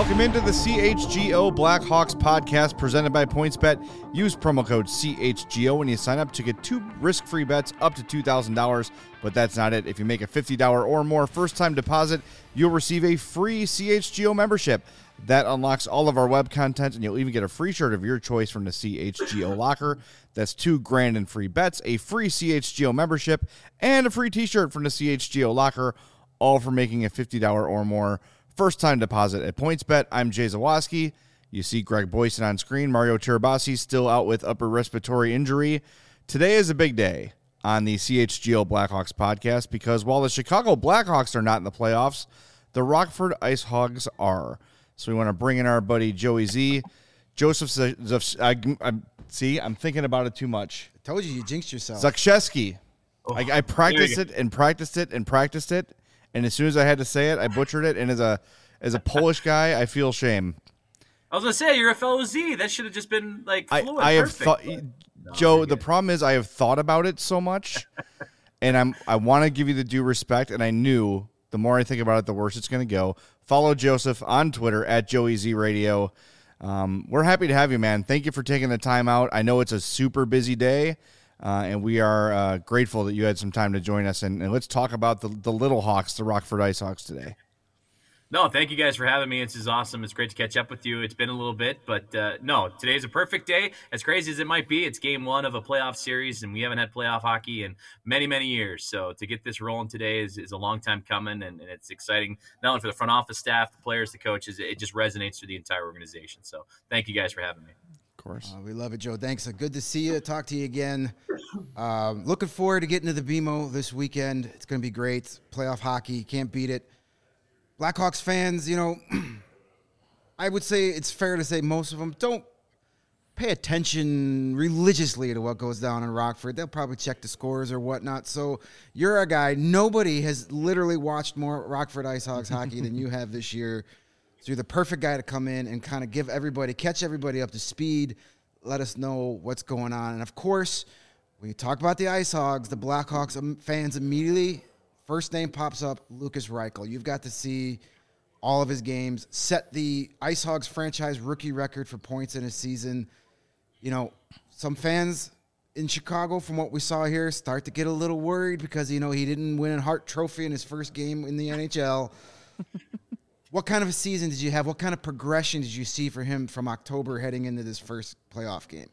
Welcome into the CHGO Blackhawks podcast presented by PointsBet. Use promo code CHGO when you sign up to get 2 risk-free bets up to $2,000. But that's not it. If you make a $50 or more first-time deposit, you'll receive a free CHGO membership. That unlocks all of our web content, and you'll even get a free shirt of your choice from the CHGO locker. That's $2,000 in free bets, a free CHGO membership, and a free t-shirt from the CHGO locker, all for making a $50 or more first-time deposit at PointsBet. I'm Jay Zawaski. You see Greg Boyson on screen. Mario Tirabassi still out with upper respiratory injury. Today is a big day on the CHGO Blackhawks podcast because while the Chicago Blackhawks are not in the playoffs, the Rockford Ice Hogs are. So we want to bring in our buddy Joey Z. Joseph, I'm thinking about it too much. I told you jinxed yourself. Zakshevsky. I practiced it and practiced it and practiced it. And as soon as I had to say it, I butchered it. And as a Polish guy, I feel shame. I was going to say, you're a fellow Z. That should have just been, like, fluent. I have thought, Joe, the problem is I have thought about it so much. And I want to give you the due respect. And I knew the more I think about it, the worse it's going to go. Follow Joseph on Twitter at JoeyZRadio. We're happy to have you, man. Thank you for taking the time out. I know it's a super busy day. And we are grateful that you had some time to join us. And let's talk about the Little Hawks, the Rockford Ice Hawks today. No, thank you guys for having me. This is awesome. It's great to catch up with you. It's been a little bit, but no, today's a perfect day. As crazy as it might be, it's game 1 of a playoff series, and we haven't had playoff hockey in many, many years. So to get this rolling today is a long time coming, and it's exciting, not only for the front office staff, the players, the coaches. It just resonates through the entire organization. So thank you guys for having me. Of course. We love it, Joe. Thanks. Good to see you. Talk to you again. Looking forward to getting to the BMO this weekend. It's going to be great. Playoff hockey. Can't beat it. Blackhawks fans, I would say it's fair to say most of them don't pay attention religiously to what goes down in Rockford. They'll probably check the scores or whatnot. So you're a guy. Nobody has literally watched more Rockford Ice Hogs hockey than you have this year. So you're the perfect guy to come in and kind of catch everybody up to speed, let us know what's going on. And, of course, when you talk about the Ice Hogs, the Blackhawks fans immediately, first name pops up, Lukas Reichel. You've got to see all of his games, set the Ice Hogs franchise rookie record for points in a season. Some fans in Chicago, from what we saw here, start to get a little worried because, he didn't win a Hart Trophy in his first game in the NHL. What kind of a season did you have? What kind of progression did you see for him from October heading into this first playoff game?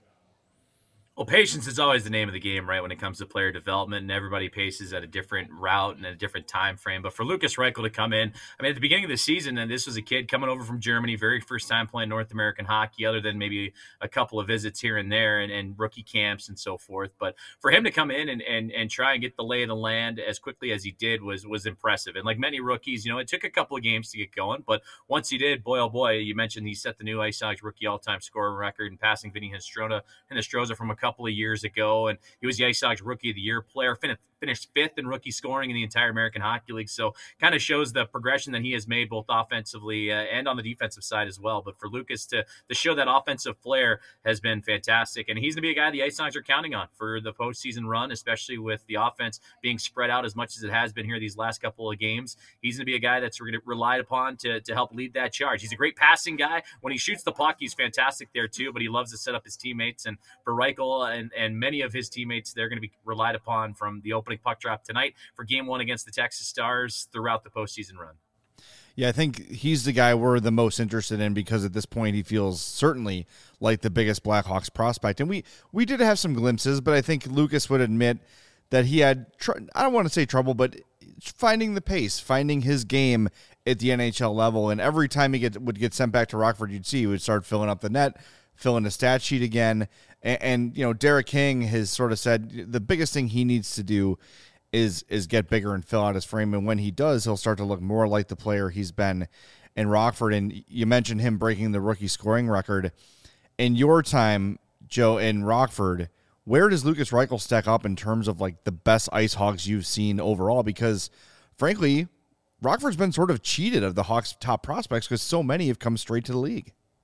Well, patience is always the name of the game, right, when it comes to player development, and everybody paces at a different route and a different time frame. But for Lukas Reichel to come in, at the beginning of the season, and this was a kid coming over from Germany, very first time playing North American hockey, other than maybe a couple of visits here and there and rookie camps and so forth. But for him to come in and try and get the lay of the land as quickly as he did was impressive. And like many rookies, it took a couple of games to get going. But once he did, boy, oh boy, you mentioned he set the new Ice Hogs rookie all-time scorer record and passing Vinny Hinostroza from a couple of years ago, and he was the Ice Hogs Rookie of the Year player, finished 5th in rookie scoring in the entire American Hockey League. So kind of shows the progression that he has made both offensively and on the defensive side as well. But for Lukas to show that offensive flair has been fantastic, and he's going to be a guy the Ice Hogs are counting on for the postseason run, especially with the offense being spread out as much as it has been here these last couple of games. He's going to be a guy that's relied upon to help lead that charge. He's a great passing guy. When he shoots the puck, he's fantastic there too, but he loves to set up his teammates. And for Reichel and many of his teammates, they're going to be relied upon from the opening puck drop tonight for game 1 against the Texas Stars throughout the postseason run. Yeah, I think he's the guy we're the most interested in because at this point he feels certainly like the biggest Blackhawks prospect. And we did have some glimpses, but I think Lukas would admit that he had, I don't want to say trouble, but finding the pace, finding his game at the NHL level. And every time he would get sent back to Rockford, you'd see he would start filling up the net, filling the stat sheet again. And Derek King has sort of said the biggest thing he needs to do is get bigger and fill out his frame. And when he does, he'll start to look more like the player he's been in Rockford. And you mentioned him breaking the rookie scoring record. In your time, Joe, in Rockford, where does Lukas Reichel stack up in terms of like the best Ice Hogs you've seen overall? Because frankly, Rockford's been sort of cheated of the Hawks' top prospects because so many have come straight to the league.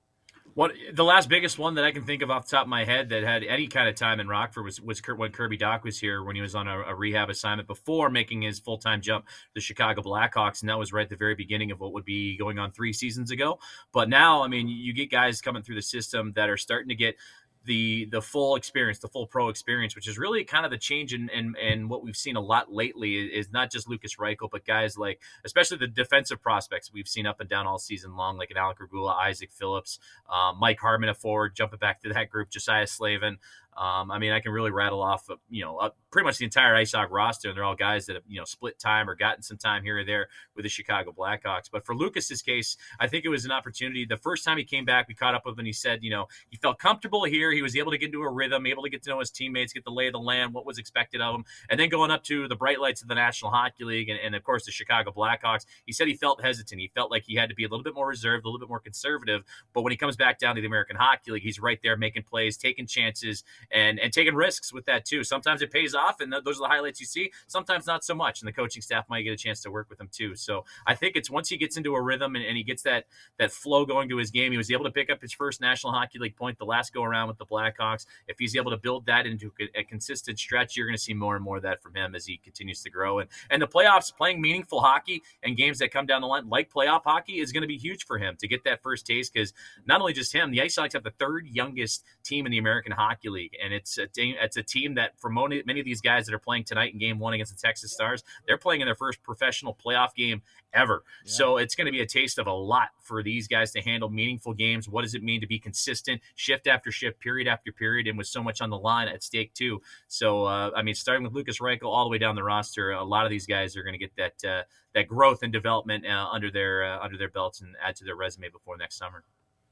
What the last biggest one that I can think of off the top of my head that had any kind of time in Rockford was when Kirby Doc was here, when he was on a rehab assignment before making his full-time jump to the Chicago Blackhawks, and that was right at the very beginning of what would be going on 3 seasons ago. But now, I mean, you get guys coming through the system that are starting to get the full experience, the full pro experience, which is really kind of the change in what we've seen a lot lately is not just Lukas Reichel, but guys like, especially the defensive prospects we've seen up and down all season long, like an Alec Regula, Isaac Phillips, Mike Harmon, a forward, jumping back to that group, Josiah Slavin. I mean, I can really rattle off, pretty much the entire Ice Hawk roster, and they're all guys that have, split time or gotten some time here or there with the Chicago Blackhawks. But for Lucas's case, I think it was an opportunity. The first time he came back, we caught up with him, and he said, he felt comfortable here. He was able to get into a rhythm, able to get to know his teammates, get the lay of the land, what was expected of him. And then going up to the bright lights of the National Hockey League and of course, the Chicago Blackhawks, he said he felt hesitant. He felt like he had to be a little bit more reserved, a little bit more conservative. But when he comes back down to the American Hockey League, he's right there making plays, taking chances, and taking risks with that too. Sometimes it pays off, and those are the highlights you see. Sometimes not so much, and the coaching staff might get a chance to work with him too. So I think it's once he gets into a rhythm and he gets that flow going to his game, he was able to pick up his first National Hockey League point the last go around with the Blackhawks. If he's able to build that into a consistent stretch, you're going to see more and more of that from him as he continues to grow. And the playoffs, playing meaningful hockey and games that come down the line like playoff hockey is going to be huge for him to get that first taste, because not only just him, the Ice Hawks have the third youngest team in the American Hockey League, and it's a team that for many of these guys that are playing tonight in Game 1 against the Texas Stars, they're playing in their first professional playoff game ever. Yeah. So it's going to be a taste of a lot for these guys to handle meaningful games. What does it mean to be consistent shift after shift, period after period, and with so much on the line at stake too? So, starting with Lukas Reichel all the way down the roster, a lot of these guys are going to get that growth and development under their belts and add to their resume before next summer.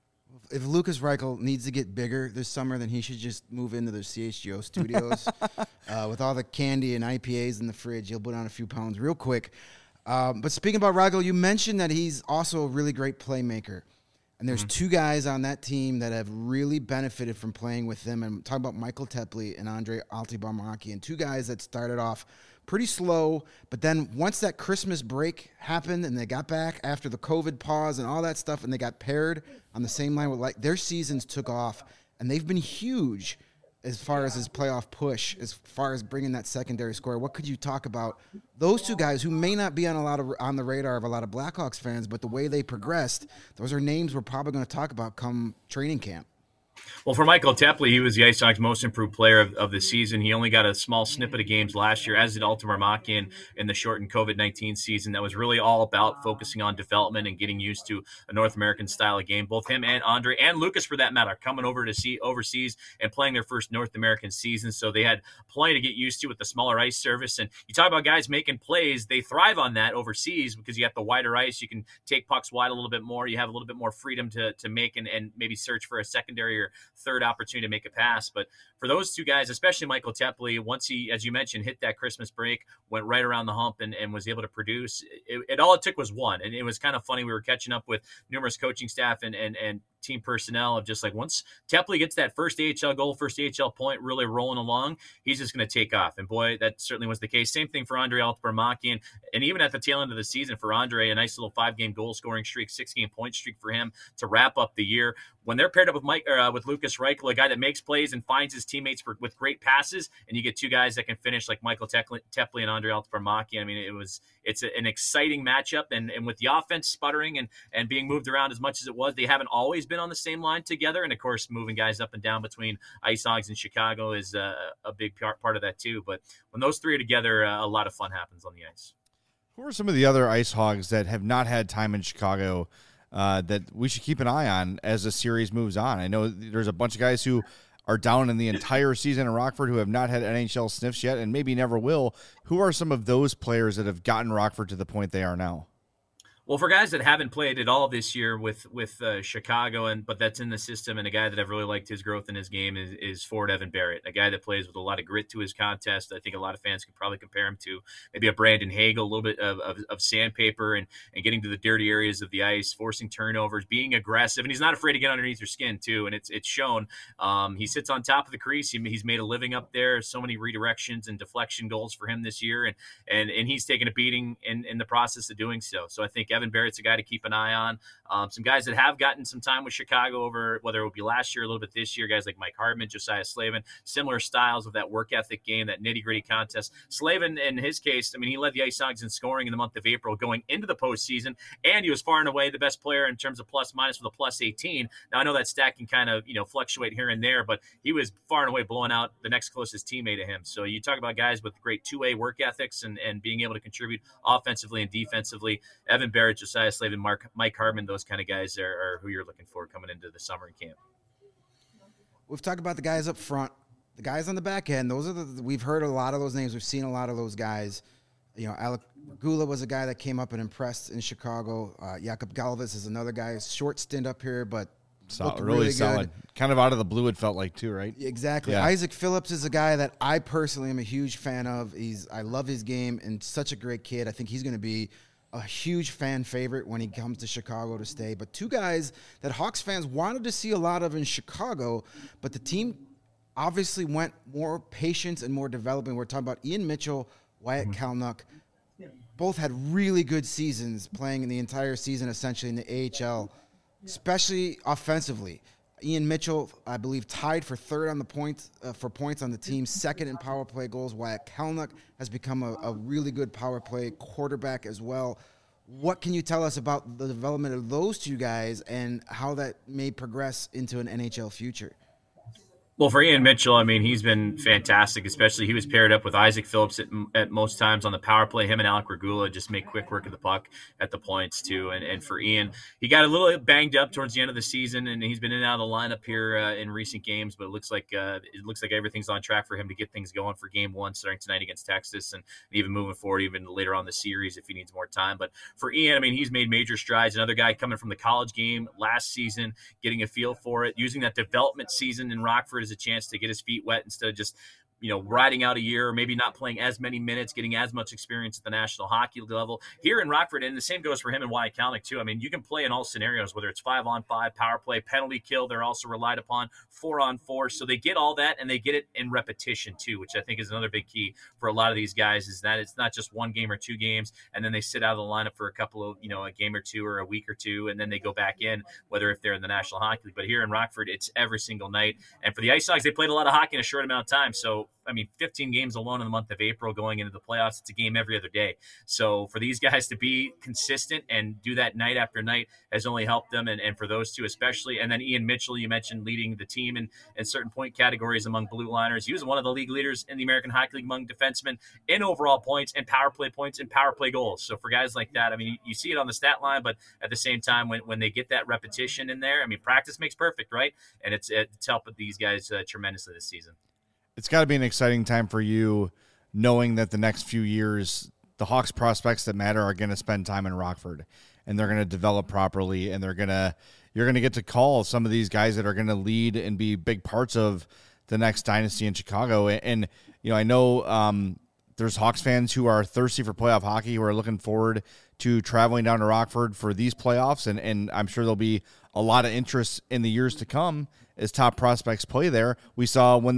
If Lukas Reichel needs to get bigger this summer, then he should just move into the CHGO studios. With all the candy and IPAs in the fridge, he'll put on a few pounds real quick. But speaking about Reichel, you mentioned that he's also a really great playmaker. And there's two guys on that team that have really benefited from playing with them. And I'm talking about Michael Tepley and Andre Altibarmaki, and two guys that started off pretty slow, but then once that Christmas break happened and they got back after the COVID pause and all that stuff, and they got paired on the same line with their seasons took off, and they've been huge as far as his playoff push, as far as bringing that secondary score. What could you talk about those two guys who may not be on the radar of a lot of Blackhawks fans, but the way they progressed, those are names we're probably going to talk about come training camp. Well, for Michael Tepley, he was the Ice Hawks' most improved player of the season. He only got a small snippet of games last year, as did Altibarmaki in the shortened COVID-19 season. That was really all about focusing on development and getting used to a North American style of game. Both him and Andre and Lucas, for that matter, coming over to see overseas and playing their first North American season. So they had plenty to get used to with the smaller ice surface. And you talk about guys making plays, they thrive on that overseas because you have the wider ice. You can take pucks wide a little bit more. You have a little bit more freedom to make and maybe search for a secondary or third opportunity to make a pass. But for those two guys, especially Michael Tepley, once he, as you mentioned, hit that Christmas break, went right around the hump and was able to produce, all it took was one. And it was kind of funny. We were catching up with numerous coaching staff and team personnel of just like, once Tepley gets that first AHL goal, first AHL point really rolling along, he's just going to take off. And boy, that certainly was the case. Same thing for Andre Altibarmaki. And even at the tail end of the season for Andre, a nice little 5-game goal scoring streak, 6-game point streak for him to wrap up the year. When they're paired up with Lukas Reichel, a guy that makes plays and finds his teammates with great passes, and you get two guys that can finish like Michael Tepley and Andre Altibarmaki. I mean, it's an exciting matchup. And with the offense sputtering and being moved around as much as it was, they haven't always been on the same line together. And of course, moving guys up and down between Ice Hogs and Chicago is a big part of that too. But when those three are together, a lot of fun happens on the ice. Who are some of the other Ice Hogs that have not had time in Chicago that we should keep an eye on as the series moves on? I know there's a bunch of guys who are down in the entire season in Rockford who have not had NHL sniffs yet and maybe never will. Who are some of those players that have gotten Rockford to the point they are now? Well, for guys that haven't played at all this year with Chicago, but that's in the system, and a guy that I've really liked his growth in his game is forward Evan Barrett, a guy that plays with a lot of grit to his contest. I think a lot of fans could probably compare him to maybe a Brandon Hagel, a little bit of sandpaper and getting to the dirty areas of the ice, forcing turnovers, being aggressive, and he's not afraid to get underneath your skin too, and it's shown. He sits on top of the crease. He's made a living up there. So many redirections and deflection goals for him this year, and he's taken a beating in the process of doing so. So I think Evan Barrett's a guy to keep an eye on. Some guys that have gotten some time with Chicago over, whether it would be last year, a little bit this year, guys like Mike Hardman, Josiah Slavin, similar styles of that work ethic game, that nitty-gritty contest. Slavin, in his case, I mean, he led the Ice Hogs in scoring in the month of April going into the postseason, and he was far and away the best player in terms of plus-minus with a plus 18. Now, I know that stat can kind of, fluctuate here and there, but he was far and away blowing out the next closest teammate to him. So you talk about guys with great two-way work ethics and being able to contribute offensively and defensively. Evan Barrett, Josiah Slavin, Mike Hardman, those kind of guys are who you're looking for coming into the summer camp. We've talked about the guys up front, the guys on the back end. Those are we've heard a lot of those names. We've seen a lot of those guys. Alec Regula was a guy that came up and impressed in Chicago. Jakob Galvis is another guy, short stint up here, but really solid. Kind of out of the blue, it felt like too, right? Exactly. Yeah. Isaac Phillips is a guy that I personally am a huge fan of. I love his game and such a great kid. I think he's going to be a huge fan favorite when he comes to Chicago to stay. But two guys that Hawks fans wanted to see a lot of in Chicago, but the team obviously went more patience and more development. We're talking about Ian Mitchell, Wyatt Kalynuk. Both had really good seasons, playing in the entire season essentially in the AHL, especially offensively. Ian Mitchell, I believe, tied for third on the points on the team, second in power play goals. Wyatt Kalynuk has become a really good power play quarterback as well. What can you tell us about the development of those two guys and how that may progress into an NHL future? Well, for Ian Mitchell, I mean, he's been fantastic, especially he was paired up with Isaac Phillips at most times on the power play. Him and Alec Regula just make quick work of the puck at the points, too. And for Ian, he got a little banged up towards the end of the season, and he's been in and out of the lineup here in recent games, but it looks like everything's on track for him to get things going for game one starting tonight against Texas and even moving forward even later on the series if he needs more time. But for Ian, I mean, he's made major strides. Another guy coming from the college game last season, getting a feel for it, using that development season in Rockford a chance to get his feet wet instead of just riding out a year, or maybe not playing as many minutes, getting as much experience at the National Hockey level here in Rockford. And the same goes for him and Wyatt Kalynuk too. I mean, you can play in all scenarios, whether it's 5-on-5, power play, penalty kill. They're also relied upon 4-on-4. So they get all that, and they get it in repetition too, which I think is another big key for a lot of these guys, is that it's not just one game or two games, and then they sit out of the lineup for a couple of, a game or two or a week or two, and then they go back in, whether if they're in the National Hockey League. But here in Rockford, it's every single night. And for the Ice Hogs, they played a lot of hockey in a short amount of time. So, 15 games alone in the month of April going into the playoffs, it's a game every other day. So for these guys to be consistent and do that night after night has only helped them. And for those two especially. And then Ian Mitchell, you mentioned leading the team in certain point categories among blue liners. He was one of the league leaders in the American Hockey League among defensemen in overall points and power play goals. So for guys like that, you see it on the stat line, but at the same time, when they get that repetition in there, practice makes perfect, right? And it's helped these guys tremendously this season. It's got to be an exciting time for you, knowing that the next few years, the Hawks prospects that matter are going to spend time in Rockford, and they're going to develop properly, and you're going to get to call some of these guys that are going to lead and be big parts of the next dynasty in Chicago. And I know there's Hawks fans who are thirsty for playoff hockey, who are looking forward to traveling down to Rockford for these playoffs, and I'm sure there'll be a lot of interest in the years to come as top prospects play there. We saw when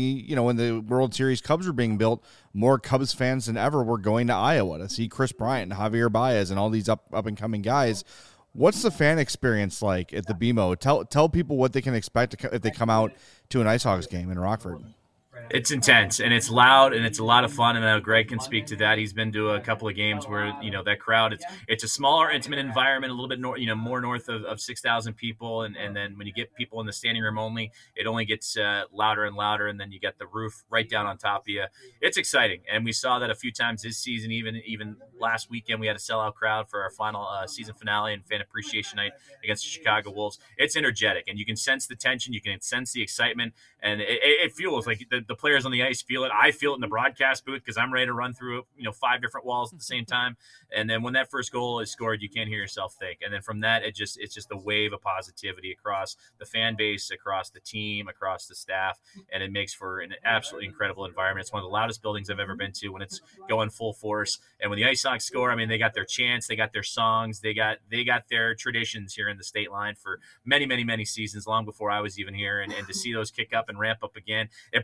the World Series Cubs were being built, more Cubs fans than ever were going to Iowa to see Chris Bryant and Javier Baez and all these up and coming guys. What's the fan experience like at the BMO? Tell people what they can expect if they come out to an Ice Hogs game in Rockford. It's intense and it's loud and it's a lot of fun. And I know Greg can speak to that. He's been to a couple of games where, that crowd, it's a smaller, intimate environment, a little bit more north of 6,000 people. And then when you get people in the standing room only, it only gets louder and louder. And then you get the roof right down on top of you. It's exciting. And we saw that a few times this season, even last weekend, we had a sellout crowd for our final season finale and fan appreciation night against the Chicago Wolves. It's energetic and you can sense the tension. You can sense the excitement, and it feels like the players on the ice feel it. I feel it in the broadcast booth because I'm ready to run through 5 different walls at the same time. And then when that first goal is scored, you can't hear yourself think. And then from that, it's just a wave of positivity across the fan base, across the team, across the staff, and it makes for an absolutely incredible environment. It's one of the loudest buildings I've ever been to when it's going full force. And when the Ice Hogs score, they got their chants, they got their songs, they got their traditions here in the state line for many, many, many seasons, long before I was even here. And to see those kick up and ramp up again, it brings fans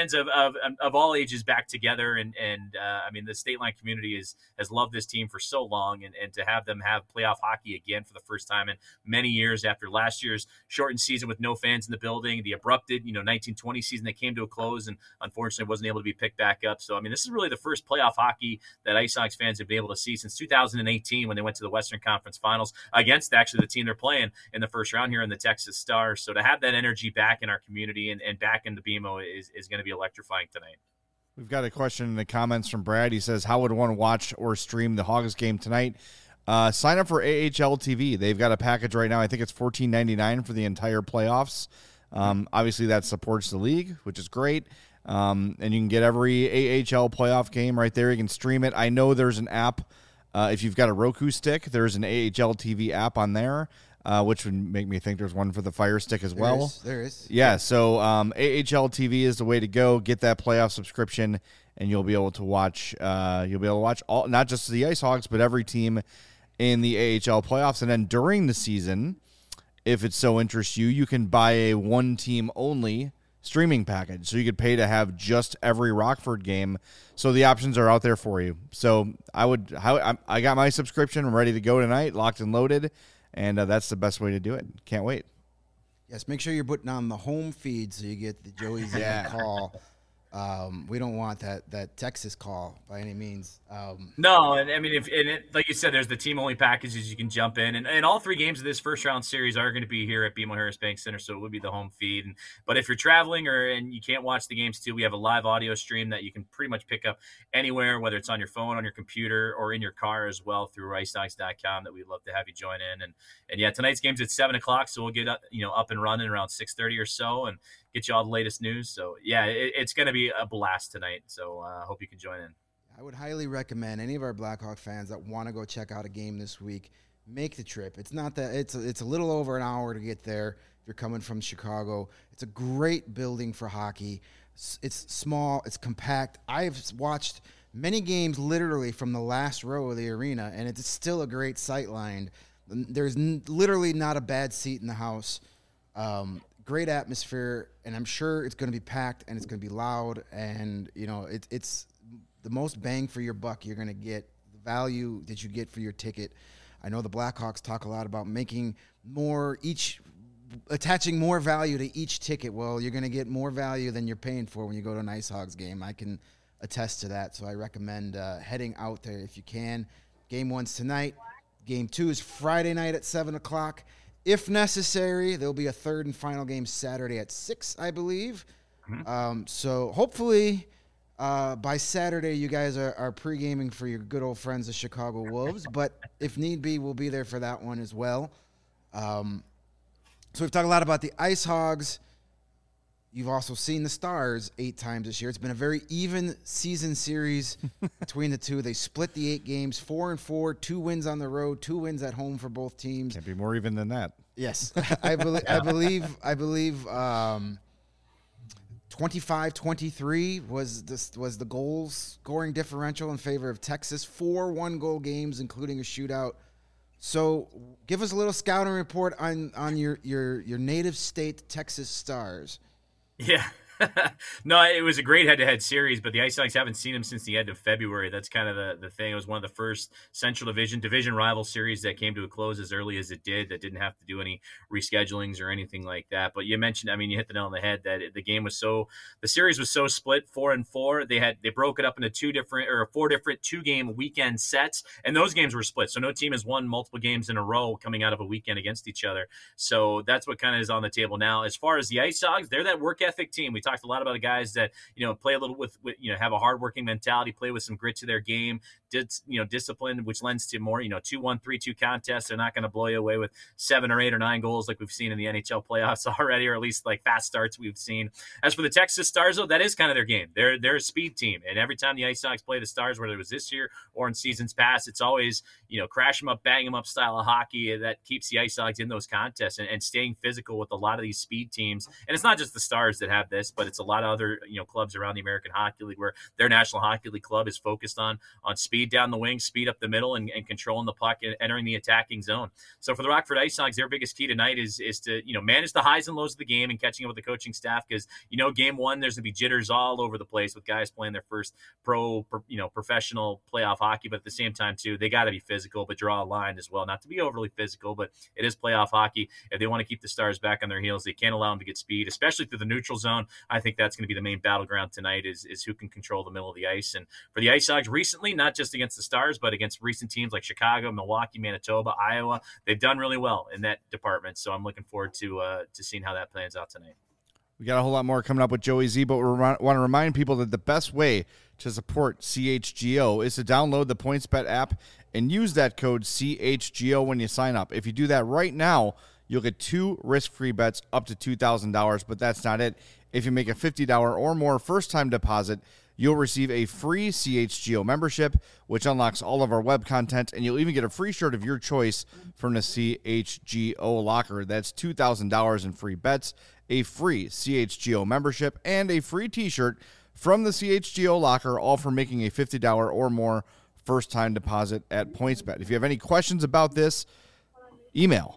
fans of all ages back together, and I mean, the State Line community has loved this team for so long, and to have them have playoff hockey again for the first time in many years after last year's shortened season with no fans in the building, the abrupted 1920 season that came to a close and unfortunately wasn't able to be picked back up. So I mean, this is really the first playoff hockey that Ice Sox fans have been able to see since 2018 when they went to the Western Conference Finals against actually the team they're playing in the first round here in the Texas Stars. So to have that energy back in our community and back in the BMO is going to be electrifying tonight. We've got a question in the comments from Brad. He says, how would one watch or stream the Hogs game tonight? Sign up for AHL TV. They've got a package right now. I think it's $14.99 for the entire playoffs. Obviously, that supports the league, which is great. And you can get every AHL playoff game right there. You can stream it. I know there's an app. If you've got a Roku stick, there's an AHL TV app on there, which would make me think there's one for the Fire Stick as well. There is. Yeah, so AHL TV is the way to go. Get that playoff subscription, and you'll be able to watch. All, not just the Ice Hogs, but every team in the AHL playoffs. And then during the season, if it so interests you, you can buy a one-team only streaming package. So you could pay to have just every Rockford game. So the options are out there for you. So I got my subscription. I'm ready to go tonight, locked and loaded, and that's the best way to do it. Can't wait. Yes, make sure you're putting on the home feed so you get the Joey's call. We don't want that Texas call by any means. No, and I mean, like you said, there's the team-only packages you can jump in, and all three games of this first-round series are going to be here at BMO Harris Bank Center, so it would be the home feed. But if you're traveling and you can't watch the games too, we have a live audio stream that you can pretty much pick up anywhere, whether it's on your phone, on your computer, or in your car as well through icedocs.com. That we'd love to have you join in. And yeah, tonight's game's at 7:00, so we'll get up and running around 6:30 or so, and get you all the latest news. So yeah, it's going to be a blast tonight. So I hope you can join in. I would highly recommend any of our Blackhawk fans that want to go check out a game this week, make the trip. It's not that it's a little over an hour to get there if you're coming from Chicago. It's a great building for hockey. It's small, it's compact. I've watched many games literally from the last row of the arena, and it's still a great sight line. There's literally not a bad seat in the house. Great atmosphere, and I'm sure it's going to be packed and it's going to be loud, and it's the most bang for your buck you're going to get, the value that you get for your ticket. I know the Blackhawks talk a lot about attaching more value to each ticket. Well, you're going to get more value than you're paying for when you go to an Ice Hogs game. I can attest to that, so I recommend heading out there if you can. Game 1's tonight. Game 2 is Friday night at 7:00. If necessary, there'll be a third and final game Saturday at 6, I believe. Mm-hmm. So hopefully by Saturday you guys are pre-gaming for your good old friends, the Chicago Wolves. But if need be, we'll be there for that one as well. So we've talked a lot about the Ice Hogs. You've also seen the Stars 8 times this year. It's been a very even season series between the two. They split the 8 games, 4-4, 2 wins on the road, 2 wins at home for both teams. Can't be more even than that. Yes, I believe 25-23 was the goal scoring differential in favor of Texas. 4 1-goal games, including a shootout. So, give us a little scouting report on your native state, Texas Stars. Yeah. No, it was a great head-to-head series, but the Ice Sox haven't seen him since the end of February. That's kind of the thing. It was one of the first Central Division rival series that came to a close as early as it did, that didn't have to do any reschedulings or anything like that. But you mentioned, you hit the nail on the head that the series was so split, 4-4. They broke it up into 4 different 2-game weekend sets, and those games were split. So no team has won multiple games in a row coming out of a weekend against each other. So that's what kind of is on the table now. As far as the Ice Sox, they're that work ethic team. We talked a lot about the guys that play a little with have a hardworking mentality, play with some grit to their game, discipline, which lends to more 2-1, 3-2 contests. They're not going to blow you away with 7 or 8 or 9 goals like we've seen in the NHL playoffs already, or at least like fast starts we've seen. As for the Texas Stars, though, that is kind of their game. They're a speed team, and every time the Ice Sox play the Stars, whether it was this year or in seasons past, it's always crash them up, bang them up style of hockey that keeps the Ice Sox in those contests and staying physical with a lot of these speed teams. And it's not just the Stars that have this, but it's a lot of other, clubs around the American Hockey League where their National Hockey League club is focused on speed down the wing, speed up the middle, and controlling the puck and entering the attacking zone. So for the Rockford Ice Hogs, their biggest key tonight is to, manage the highs and lows of the game and catching up with the coaching staff, because, game one, there's going to be jitters all over the place with guys playing their first professional playoff hockey. But at the same time, too, they got to be physical, but draw a line as well. Not to be overly physical, but it is playoff hockey. If they want to keep the Stars back on their heels, they can't allow them to get speed, especially through the neutral zone. I think that's going to be the main battleground tonight is who can control the middle of the ice. And for the Ice Hogs recently, not just against the Stars, but against recent teams like Chicago, Milwaukee, Manitoba, Iowa, they've done really well in that department. So I'm looking forward to seeing how that plans out tonight. We got a whole lot more coming up with Joey Z, but we want to remind people that the best way to support CHGO is to download the PointsBet app and use that code CHGO when you sign up. If you do that right now, you'll get 2 risk-free bets up to $2,000, but that's not it. If you make a $50 or more first-time deposit, you'll receive a free CHGO membership, which unlocks all of our web content, and you'll even get a free shirt of your choice from the CHGO locker. That's $2,000 in free bets, a free CHGO membership, and a free t-shirt from the CHGO locker, all for making a $50 or more first-time deposit at PointsBet. If you have any questions about this, email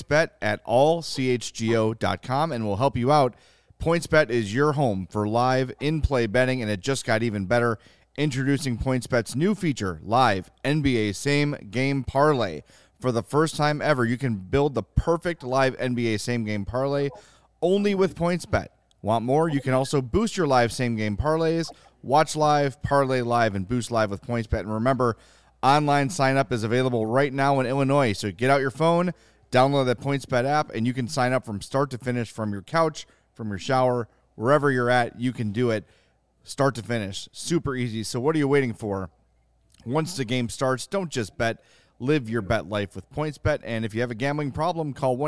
pointsbet@allchgo.com, and we'll help you out. PointsBet is your home for live in-play betting, and it just got even better. Introducing PointsBet's new feature, Live NBA Same Game Parlay. For the first time ever, you can build the perfect live NBA Same Game Parlay only with PointsBet. Want more? You can also boost your live Same Game Parlays, watch live, parlay live, and boost live with PointsBet. And remember, online sign-up is available right now in Illinois, so get out your phone, download that PointsBet app, and you can sign up from start to finish from your couch, from your shower, wherever you're at. You can do it start to finish. Super easy. So what are you waiting for? Once the game starts, don't just bet. Live your bet life with PointsBet. And if you have a gambling problem, call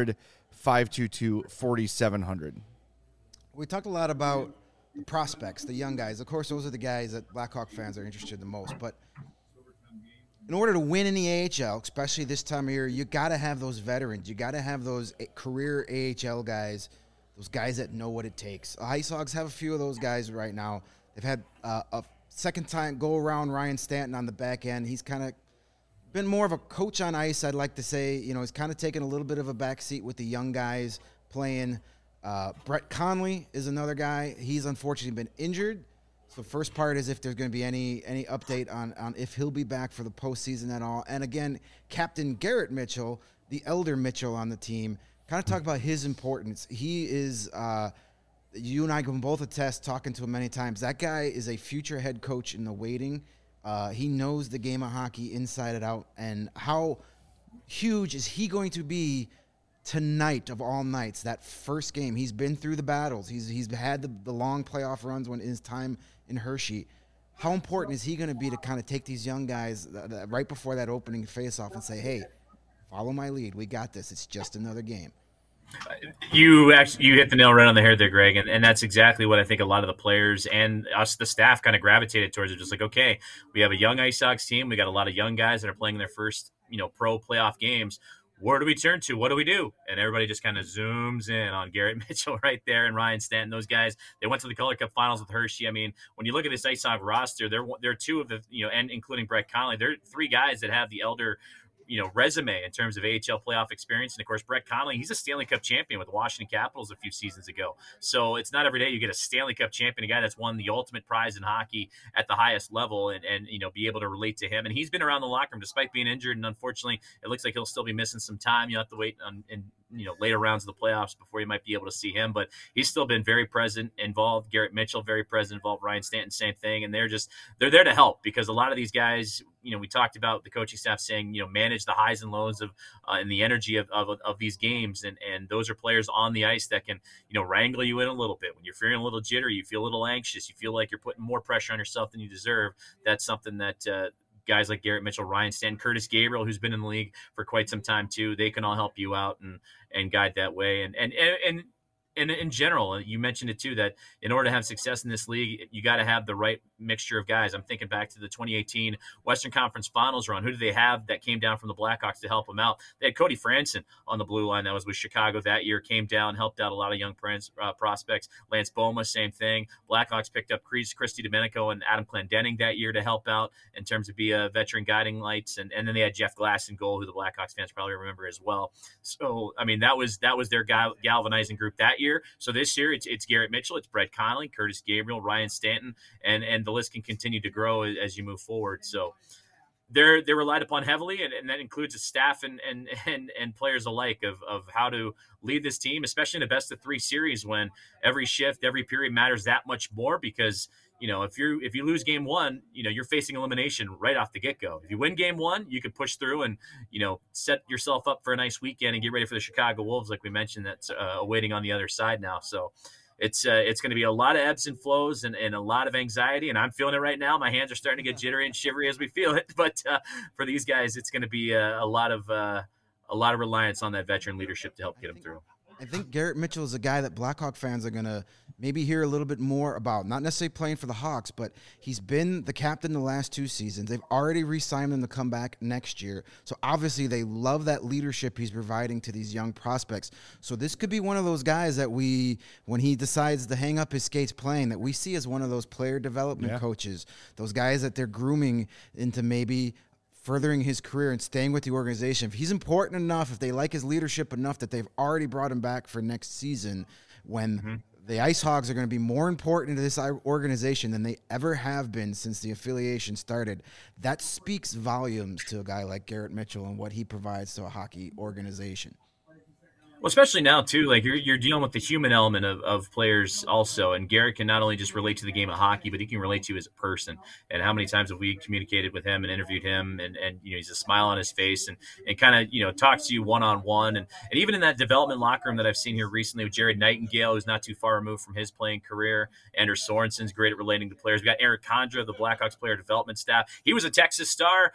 1-800-522-4700. We talked a lot about the prospects, the young guys. Of course, those are the guys that Blackhawk fans are interested in the most. But in order to win in the AHL, especially this time of year, you got to have those veterans. You got to have those career AHL guys, those guys that know what it takes. Ice Hogs have a few of those guys right now. They've had a second time go around Ryan Stanton on the back end. He's kind of been more of a coach on ice, I'd like to say. He's kind of taken a little bit of a backseat with the young guys playing. Brett Conley is another guy. He's unfortunately been injured. So first part is if there's going to be any update on if he'll be back for the postseason at all. And again, Captain Garrett Mitchell, the elder Mitchell on the team, kind of talk about his importance. He is, you and I can both attest, talking to him many times, that guy is a future head coach in the waiting. He knows the game of hockey inside and out. And how huge is he going to be tonight of all nights, that first game? He's been through the battles. He's had the long playoff runs when his time in Hershey. How important is he going to be to kind of take these young guys right before that opening face-off and say, hey, follow my lead. We got this. It's just another game. You hit the nail right on the head there, Greg, and that's exactly what I think a lot of the players and us, the staff, kind of gravitated towards. It just like, okay, we have a young Ice Sox team. We got a lot of young guys that are playing their first, pro playoff games. Where do we turn to? What do we do? And everybody just kind of zooms in on Garrett Mitchell right there and Ryan Stanton. Those guys, they went to the Calder Cup Finals with Hershey. I mean, when you look at this Ice Sox roster, they're two of the, and including Brett Conley, they're 3 guys that have the elder resume in terms of AHL playoff experience. And of course, Brett Conley, he's a Stanley Cup champion with the Washington Capitals a few seasons ago. So it's not every day you get a Stanley Cup champion, a guy that's won the ultimate prize in hockey at the highest level, and be able to relate to him. And he's been around the locker room despite being injured. And unfortunately, it looks like he'll still be missing some time. You'll have to wait on later rounds of the playoffs before you might be able to see him, but he's still been very present, involved. Garrett Mitchell, very present, involved. Ryan Stanton, same thing. And they're there to help, because a lot of these guys, we talked about the coaching staff saying, manage the highs and lows of and the energy of these games. And those are players on the ice that can, wrangle you in a little bit. When you're feeling a little jittery, you feel a little anxious, you feel like you're putting more pressure on yourself than you deserve. That's something that, guys like Garrett Mitchell, Ryan Stanton, Curtis Gabriel, who's been in the league for quite some time too, they can all help you out and guide that way. And in general, you mentioned it too, that in order to have success in this league, you got to have the right mixture of guys. I'm thinking back to the 2018 Western Conference Finals run. Who did they have that came down from the Blackhawks to help them out? They had Cody Franson on the blue line that was with Chicago that year, came down, helped out a lot of young prospects. Lance Boma, same thing. Blackhawks picked up Christy Domenico and Adam Clendenning that year to help out in terms of be a veteran guiding lights. And then they had Jeff Glass in goal, who the Blackhawks fans probably remember as well. So, I mean, that was their galvanizing group that year. So this year it's Garrett Mitchell, it's Brett Connolly, Curtis Gabriel, Ryan Stanton, and the list can continue to grow as you move forward. So they're relied upon heavily, and that includes a staff and players alike of how to lead this team, especially in a best of 3 series when every shift, every period matters that much more because, you know, if you lose game 1, you know, you're facing elimination right off the get-go. If you win game 1, you can push through and, you know, set yourself up for a nice weekend and get ready for the Chicago Wolves, like we mentioned, that's awaiting on the other side now. So it's going to be a lot of ebbs and flows and a lot of anxiety, and I'm feeling it right now. My hands are starting to get jittery and shivery as we feel it. But for these guys, it's going to be a lot of reliance on that veteran leadership to help get them through. I think Garrett Mitchell is a guy that Blackhawk fans are going to maybe hear a little bit more about. Not necessarily playing for the Hawks, but he's been the captain the last 2 seasons. They've already re-signed him to come back next year. So obviously they love that leadership he's providing to these young prospects. So this could be one of those guys that when he decides to hang up his skates playing, that we see as one of those player development coaches, those guys that they're grooming into maybe furthering his career and staying with the organization. If he's important enough, if they like his leadership enough that they've already brought him back for next season, when the Ice Hogs are going to be more important to this organization than they ever have been since the affiliation started, that speaks volumes to a guy like Garrett Mitchell and what he provides to a hockey organization. Well, especially now, too, like you're dealing with the human element of players also. And Garrett can not only just relate to the game of hockey, but he can relate to you as a person. And how many times have we communicated with him and interviewed him and you know, he's a smile on his face and kind of, you know, talks to you one-on-one. And even in that development locker room that I've seen here recently with Jared Nightingale, who's not too far removed from his playing career. Anders Sorensen's great at relating to players. We got Eric Condra, the Blackhawks player development staff. He was a Texas Star.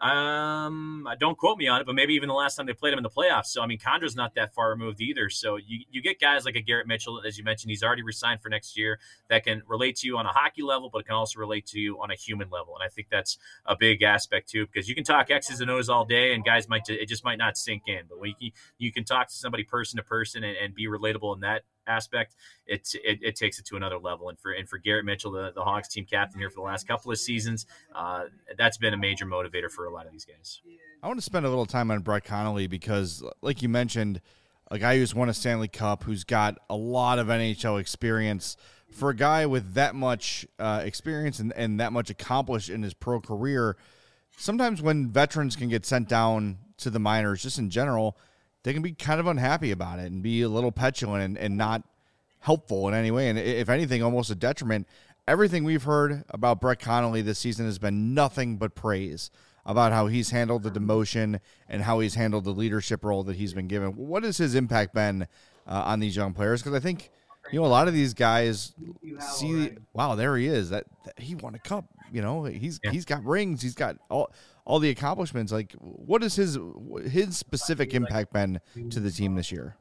Don't quote me on it, but maybe even the last time they played him in the playoffs. So, I mean, Condra's not that far removed either. So you get guys like a Garrett Mitchell, as you mentioned, he's already resigned for next year, that can relate to you on a hockey level, but can also relate to you on a human level. And I think that's a big aspect too, because you can talk X's and O's all day and guys it just might not sink in, but when you can talk to somebody person to person and be relatable in that aspect, it takes it to another level. And for Garrett Mitchell, the Hawks team captain here for the last couple of seasons, that's been a major motivator for a lot of these guys. I want to spend a little time on Brett Connolly because, like you mentioned, a guy who's won a Stanley Cup, who's got a lot of NHL experience. For a guy with that much experience and that much accomplished in his pro career, sometimes when veterans can get sent down to the minors, just in general, they can be kind of unhappy about it and be a little petulant and not helpful in any way. And if anything, almost a detriment. Everything we've heard about Brett Connolly this season has been nothing but praise about how he's handled the demotion and how he's handled the leadership role that he's been given. What has his impact been on these young players? Because I think, you know, a lot of these guys see, wow, there he is. That he won a cup. You know, he's got rings. He's got all the accomplishments. Like, what has his specific impact been to the team this year?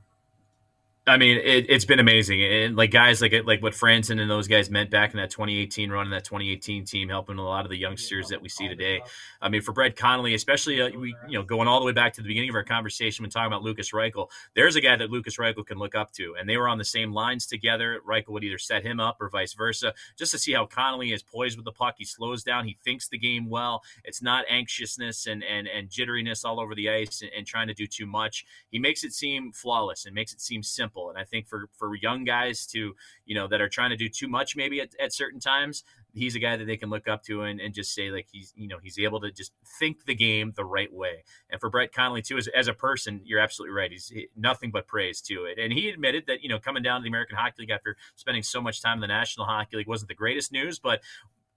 I mean, it's been amazing. And like guys like what Franson and those guys meant back in that 2018 run and that 2018 team, helping a lot of the youngsters that we see today. I mean, for Brett Connolly, especially, going all the way back to the beginning of our conversation when talking about Lucas Reichel, there's a guy that Lucas Reichel can look up to. And they were on the same lines together. Reichel would either set him up or vice versa, just to see how Connolly is poised with the puck. He slows down. He thinks the game well. It's not anxiousness and jitteriness all over the ice and trying to do too much. He makes it seem flawless and makes it seem simple. And I think for young guys to, that are trying to do too much maybe at certain times, he's a guy that they can look up to and just say, like, he's able to just think the game the right way. And for Brett Connolly too, as a person, you're absolutely right. He's nothing but praise to it. And he admitted that, coming down to the American Hockey League after spending so much time in the National Hockey League wasn't the greatest news, but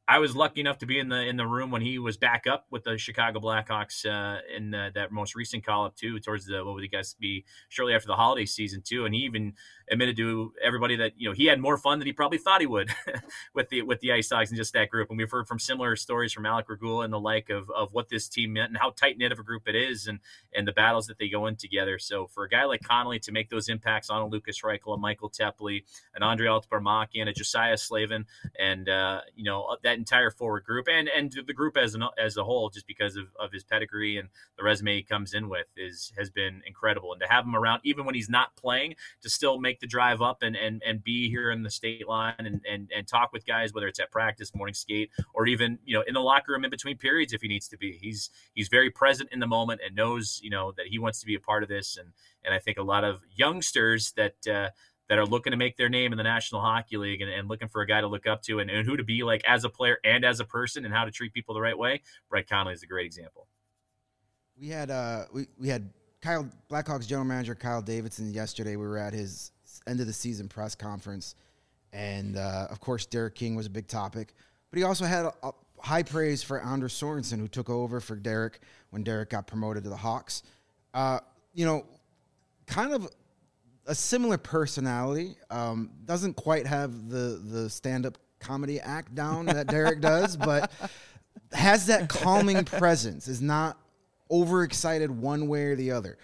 I was lucky enough to be in the room when he was back up with the Chicago Blackhawks in that most recent call up too, towards what would you guys be shortly after the holiday season too, and he even admitted to everybody that he had more fun than he probably thought he would with the Ice Dogs and just that group. And we've heard from similar stories from Alec Regula and the like of what this team meant and how tight knit of a group it is, and the battles that they go in together. So for a guy like Connolly to make those impacts on a Lucas Reichel, a Michael Tepley, an Andre Altabarmaki, and a Josiah Slavin, and that entire forward group and the group as a whole, just because of his pedigree and the resume he comes in with, has been incredible. And to have him around even when he's not playing, to still make the drive up and be here in the state line and talk with guys, whether it's at practice, morning skate, or even in the locker room in between periods if he needs to be. He's very present in the moment and knows that he wants to be a part of this. And I think a lot of youngsters that are looking to make their name in the National Hockey League and looking for a guy to look up to and who to be like as a player and as a person and how to treat people the right way, Brett Connolly is a great example. We had Blackhawks general manager Kyle Davidson yesterday. We were at his end of the season press conference, and of course Derek King was a big topic, but he also had a high praise for Anders Sorensen, who took over for Derek when Derek got promoted to the Hawks. Kind of a similar personality, doesn't quite have the stand-up comedy act down that Derek does, but has that calming presence, is not overexcited one way or the other.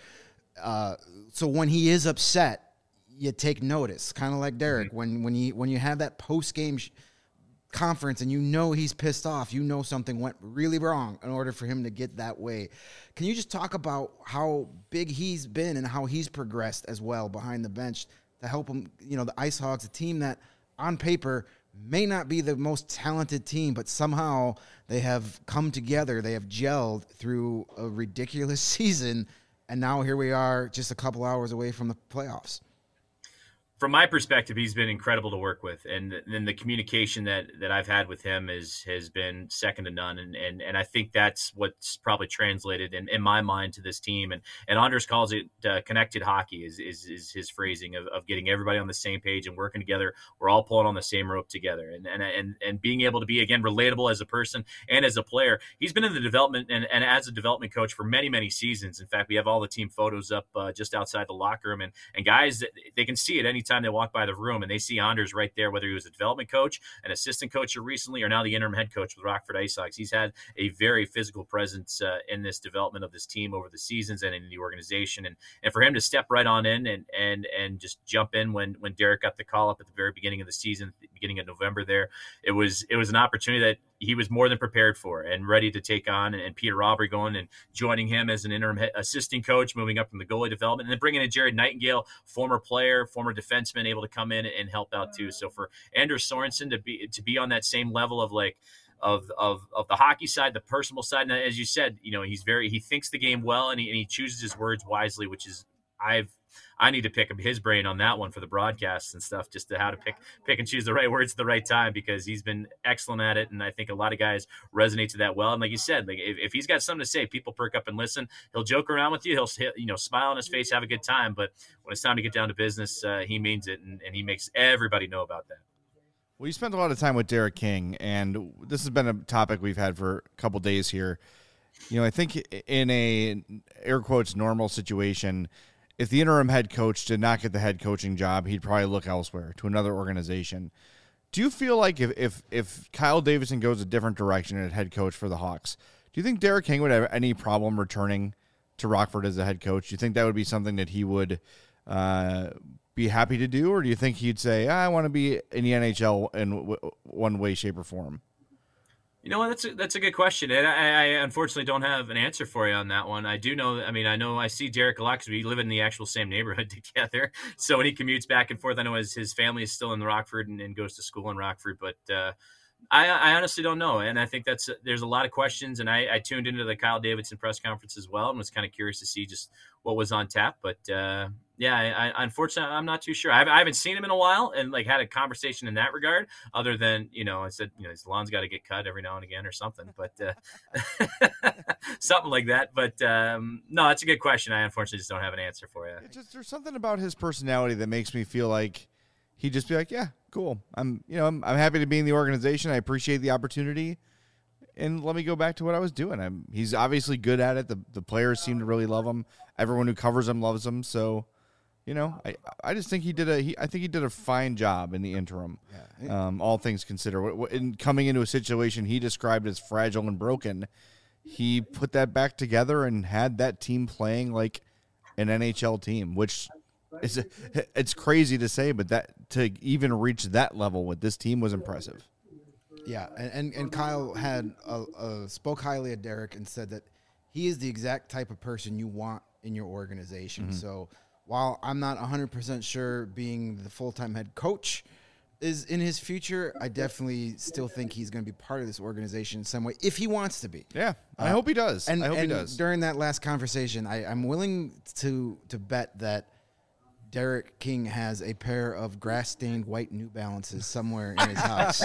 So when he is upset, you take notice, kind of like Derek. Mm-hmm. When you have that post-game conference and he's pissed off, something went really wrong in order for him to get that way. Can you just talk about how big he's been and how he's progressed as well behind the bench to help him, the Ice Hogs, a team that on paper may not be the most talented team, but somehow they have come together, they have gelled through a ridiculous season, and now here we are just a couple hours away from the playoffs. From my perspective, he's been incredible to work with, and then the communication that I've had with him has been second to none, and I think that's what's probably translated in my mind to this team. And Anders calls it connected hockey is his phrasing of getting everybody on the same page and working together. We're all pulling on the same rope together, and being able to be again relatable as a person and as a player. He's been in the development and as a development coach for many seasons. In fact, we have all the team photos up just outside the locker room, and guys, they can see it anytime they walk by the room and they see Anders right there, whether he was a development coach, an assistant coach recently, or now the interim head coach with Rockford Ice Hogs. He's had a very physical presence in this development of this team over the seasons and in the organization. And for him to step right on in and just jump in when Derek got the call up at the very beginning of the season, beginning of November there, it was an opportunity that he was more than prepared for and ready to take on. And Peter Aubrey going and joining him as an interim assistant coach, moving up from the goalie development, and then bringing in Jared Nightingale, former player, former defenseman, able to come in and help out too. So for Anders Sorensen to be on that same level of of the hockey side, the personal side, and as you said, he thinks the game well and he chooses his words wisely, which is I need to pick his brain on that one for the broadcasts and stuff, just to how to pick and choose the right words at the right time, because he's been excellent at it. And I think a lot of guys resonate to that well. And like you said, if he's got something to say, people perk up and listen. He'll joke around with you. He'll smile on his face, have a good time. But when it's time to get down to business, he means it. And he makes everybody know about that. Well, you spent a lot of time with Derek King, and this has been a topic we've had for a couple days here. I think in a air quotes normal situation, if the interim head coach did not get the head coaching job, he'd probably look elsewhere to another organization. Do you feel like if Kyle Davidson goes a different direction at head coach for the Hawks, do you think Derek King would have any problem returning to Rockford as a head coach? Do you think that would be something that he would be happy to do, or do you think he'd say, I want to be in the NHL in one way, shape, or form? That's a good question, and I unfortunately don't have an answer for you on that one. I do know. I see Derek a lot because we live in the actual same neighborhood together. So when he commutes back and forth, I know his family is still in Rockford and goes to school in Rockford. But I honestly don't know, and I think there's a lot of questions. And I tuned into the Kyle Davidson press conference as well and was kind of curious to see just what was on tap. But I unfortunately I'm not too sure. I haven't seen him in a while and had a conversation in that regard. Other than I said his lawn's got to get cut every now and again or something, but something like that. But no, that's a good question. I unfortunately just don't have an answer for you. There's something about his personality that makes me feel like he'd just be like, yeah, cool. I'm happy to be in the organization. I appreciate the opportunity. And let me go back to what I was doing. He's obviously good at it. The players seem to really love him. Everyone who covers him loves him. So, I just think he did a fine job in the interim. Yeah. All things considered, in coming into a situation he described as fragile and broken, he put that back together and had that team playing like an NHL team, which it's crazy to say, but that to even reach that level with this team was impressive. Yeah, and Kyle had spoke highly of Derek and said that he is the exact type of person you want in your organization. Mm-hmm. So while I'm not 100% sure being the full-time head coach is in his future, I definitely still think he's going to be part of this organization in some way if he wants to be. Yeah, I hope he does. I hope he does. During that last conversation, I'm willing to bet that Derek King has a pair of grass-stained white New Balances somewhere in his house.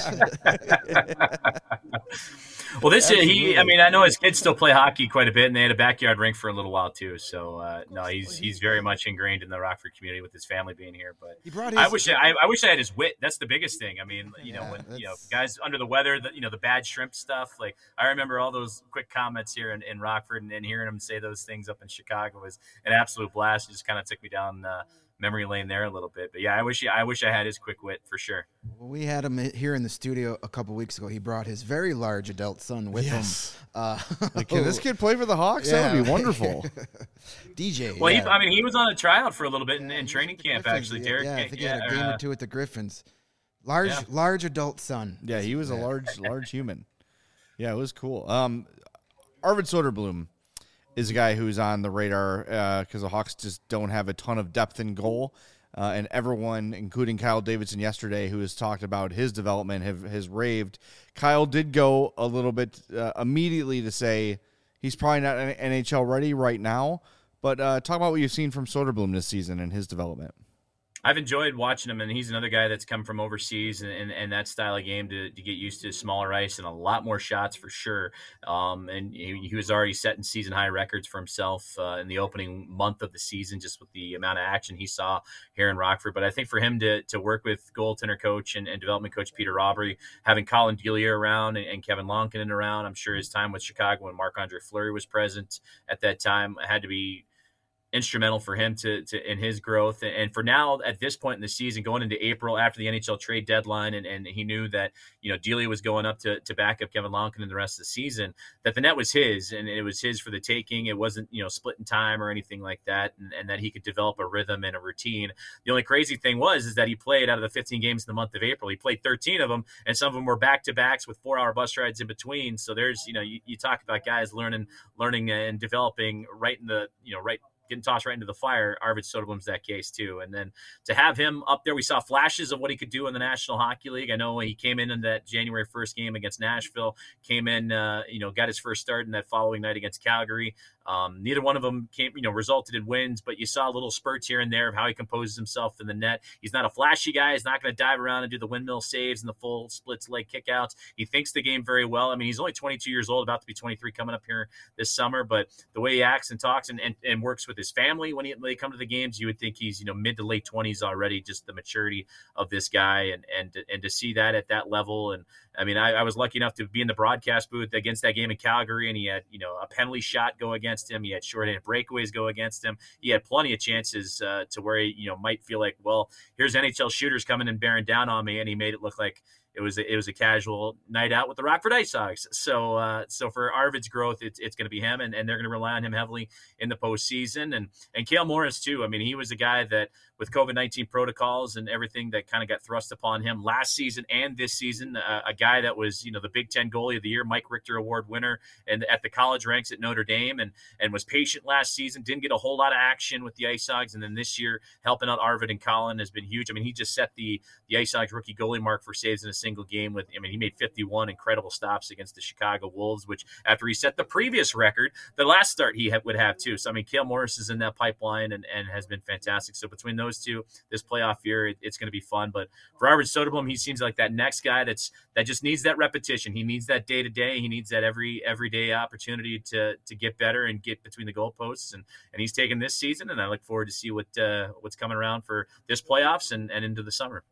Well, I know his kids still play hockey quite a bit, and they had a backyard rink for a little while too. So he's very much ingrained in the Rockford community with his family being here. But I wish I had his wit. That's the biggest thing. I mean, guys under the weather, the bad shrimp stuff. Like I remember all those quick comments here in Rockford, and hearing him say those things up in Chicago was an absolute blast. It just kind of took me down memory lane there a little bit. But yeah, I wish I had his quick wit for sure. Well, we had him here in the studio a couple weeks ago. He brought his very large adult son with him. Can this kid play for the Hawks? Yeah. That would be wonderful. DJ. Well, he was on a tryout for a little bit in training camp, actually. Derek. Yeah, I think he had a game or two at the Griffins. Large adult son. Yeah, he was a large human. Yeah, it was cool. Arvid Soderblom is a guy who's on the radar because the Hawks just don't have a ton of depth in goal. And everyone, including Kyle Davidson yesterday, who has talked about his development, has raved. Kyle did go a little bit immediately to say he's probably not NHL ready right now. But talk about what you've seen from Soderblom this season and his development. I've enjoyed watching him, and he's another guy that's come from overseas and that style of game to get used to smaller ice and a lot more shots for sure. And he was already setting season high records for himself in the opening month of the season, just with the amount of action he saw here in Rockford. But I think for him to work with goaltender coach and development coach Peter Robbery, having Colin Delia around and Kevin Lonkinen around, I'm sure his time with Chicago when Marc-Andre Fleury was present at that time had to be instrumental for him to in his growth. And for now, at this point in the season, going into April after the NHL trade deadline, and he knew that Delia was going up to back up Kevin Lonkinen the rest of the season, that the net was his, and it was his for the taking. It wasn't split in time or anything like that, and that he could develop a rhythm and a routine. The only crazy thing is that he played out of the 15 games in the month of April, he played 13 of them, and some of them were back-to-backs with 4-hour bus rides in between. So there's you talk about guys learning and developing right in the right, getting tossed right into the fire. Arvid Soderblom's that case too. And then to have him up there, we saw flashes of what he could do in the National Hockey League. I know he came in that January 1st game against Nashville, came in, got his first start in that following night against Calgary. Neither one of them resulted in wins, but you saw little spurts here and there of how he composes himself in the net. He's not a flashy guy. He's not going to dive around and do the windmill saves and the full splits leg kickouts. He thinks the game very well. I mean, he's only 22 years old, about to be 23 coming up here this summer, but the way he acts and talks and works with his family when they come to the games, you would think he's mid to late 20s already, just the maturity of this guy and to see that at that level. And I mean, I was lucky enough to be in the broadcast booth against that game in Calgary, and he had a penalty shot go against him. He had shorthanded breakaways go against him. He had plenty of chances to where he might feel like, well, here's NHL shooters coming and bearing down on me, and he made it look like it was a casual night out with the Rockford Ice Hogs. So for Arvid's growth, it's going to be him, and they're going to rely on him heavily in the postseason. And Cale Morris too. I mean, he was a guy that with COVID-19 protocols and everything that kind of got thrust upon him last season and this season, a guy that was the Big Ten Goalie of the Year, Mike Richter Award winner, and at the college ranks at Notre Dame, and was patient last season. Didn't get a whole lot of action with the Ice Hogs, and then this year helping out Arvid and Colin has been huge. I mean, he just set the Ice Hogs rookie goalie mark for saves in a single game he made 51 incredible stops against the Chicago Wolves, which after he set the previous record, the last start he would have too. So I mean, Cale Morris is in that pipeline and has been fantastic. So between those two, this playoff year, it's going to be fun. But for Arvid Soderblom, he seems like that next guy that just needs that repetition. He needs that day to day. He needs that everyday opportunity to get better and get between the goalposts. And he's taken this season, and I look forward to see what's coming around for this playoffs and into the summer.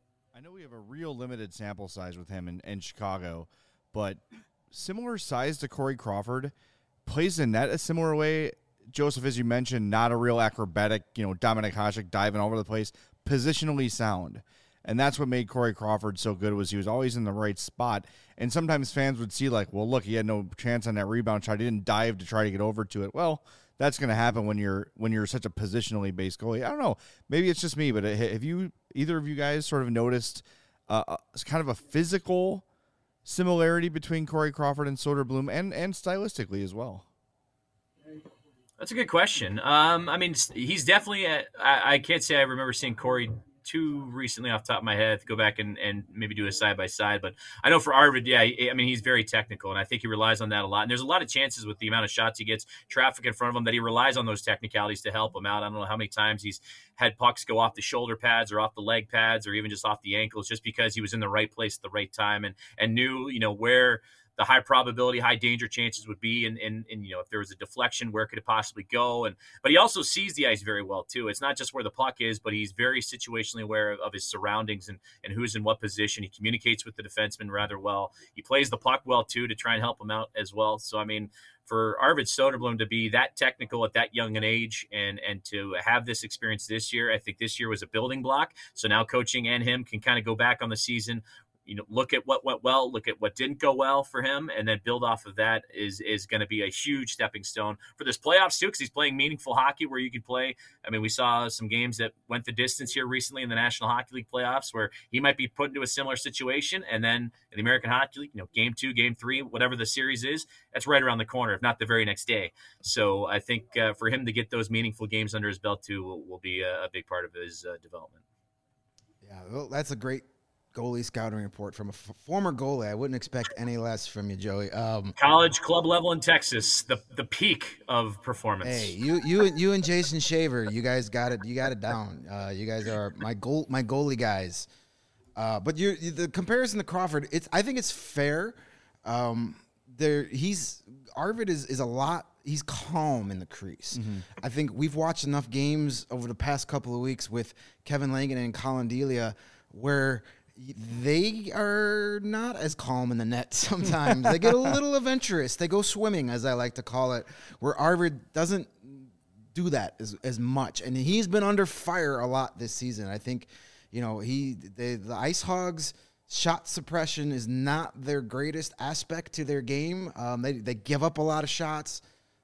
know we have a real limited sample size with him in Chicago, but similar size to Corey Crawford, plays the net a similar way. Joseph, as you mentioned, not a real acrobatic, Dominik Hasek diving all over the place, positionally sound. And that's what made Corey Crawford so good, was he was always in the right spot. And sometimes fans would see like, well, look, he had no chance on that rebound shot. He didn't dive to try to get over to it. Well, that's going to happen when you're such a positionally based goalie. I don't know. Maybe it's just me, but have either of you guys sort of noticed kind of a physical similarity between Corey Crawford and Soderblom, and stylistically as well? That's a good question. I mean, he's definitely I can't say I remember seeing Corey too recently off the top of my head. Go back and maybe do a side-by-side. But I know for Arvid, I mean, he's very technical, and I think he relies on that a lot. And there's a lot of chances with the amount of shots he gets, traffic in front of him, that he relies on those technicalities to help him out. I don't know how many times he's had pucks go off the shoulder pads or off the leg pads or even just off the ankles, just because he was in the right place at the right time and knew, where the high probability, high danger chances would be, and if there was a deflection, where could it possibly go? But he also sees the ice very well too. It's not just where the puck is, but he's very situationally aware of his surroundings and who's in what position. He communicates with the defenseman rather well. He plays the puck well too, to try and help him out as well. So I mean, for Arvid Soderblom to be that technical at that young an age and to have this experience this year, I think this year was a building block. So now coaching and him can kind of go back on the season, look at what went well, look at what didn't go well for him, and then build off of that is going to be a huge stepping stone for this playoffs too, because he's playing meaningful hockey where you can play. I mean, we saw some games that went the distance here recently in the National Hockey League playoffs where he might be put into a similar situation, and then in the American Hockey League, game 2, game 3, whatever the series is, that's right around the corner, if not the very next day. So I think for him to get those meaningful games under his belt too will be a big part of his development. Yeah, well, that's a great goalie scouting report from a former goalie. I wouldn't expect any less from you, Joey. College club level in Texas, the peak of performance. Hey, you and Jason Shaver, you guys got it. You got it down. You guys are my goalie guys. But the comparison to Crawford, I think it's fair. Arvid is a lot. He's calm in the crease. Mm-hmm. I think we've watched enough games over the past couple of weeks with Kevin Langen and Colin Delia where they are not as calm in the net sometimes. They get a little adventurous. They go swimming, as I like to call it, where Arvid doesn't do that as much. And he's been under fire a lot this season. I think, the Ice Hogs shot suppression is not their greatest aspect to their game. They give up a lot of shots.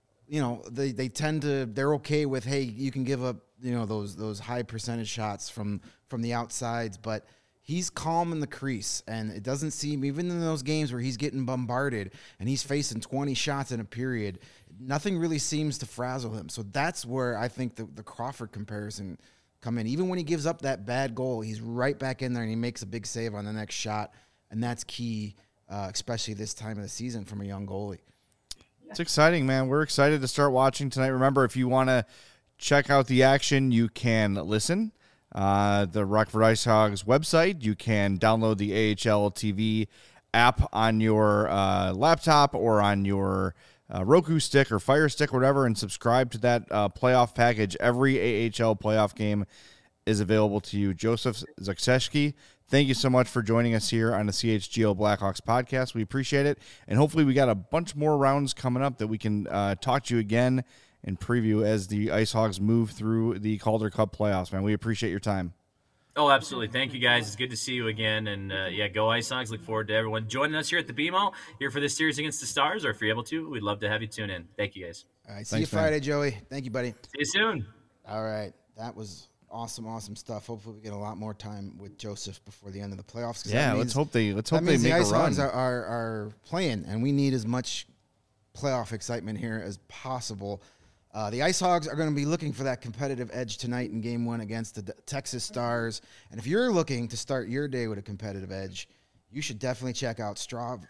They tend to, they're okay with, hey, you can give up, those high percentage shots from the outsides, but he's calm in the crease, and it doesn't seem, even in those games where he's getting bombarded and he's facing 20 shots in a period, nothing really seems to frazzle him. So that's where I think the Crawford comparison come in. Even when he gives up that bad goal, he's right back in there and he makes a big save on the next shot, and that's key, especially this time of the season from a young goalie. It's exciting, man. We're excited to start watching tonight. Remember, if you want to check out the action, you can listen. The Rockford Ice Hogs website. You can download the AHL TV app on your laptop or on your Roku stick or Fire Stick, whatever, and subscribe to that playoff package. Every AHL playoff game is available to you. Joseph Zakseski, thank you so much for joining us here on the CHGO Blackhawks podcast. We appreciate it, and hopefully we got a bunch more rounds coming up that we can talk to you again and preview as the Ice Hogs move through the Calder Cup playoffs, man. We appreciate your time. Oh, absolutely. Thank you, guys. It's good to see you again. And, go Ice Hogs. Look forward to everyone joining us here at the BMO, here for this series against the Stars, or if you're able to, we'd love to have you tune in. Thank you, guys. All right, see you Friday, Joey. Thank you, buddy. See you soon. All right. That was awesome stuff. Hopefully we get a lot more time with Joseph before the end of the playoffs. Yeah, let's hope they make a run. The Ice Hogs are playing, and we need as much playoff excitement here as possible. The Ice Hogs are going to be looking for that competitive edge tonight in Game 1 against the Texas Stars. And if you're looking to start your day with a competitive edge, you should definitely check out Strava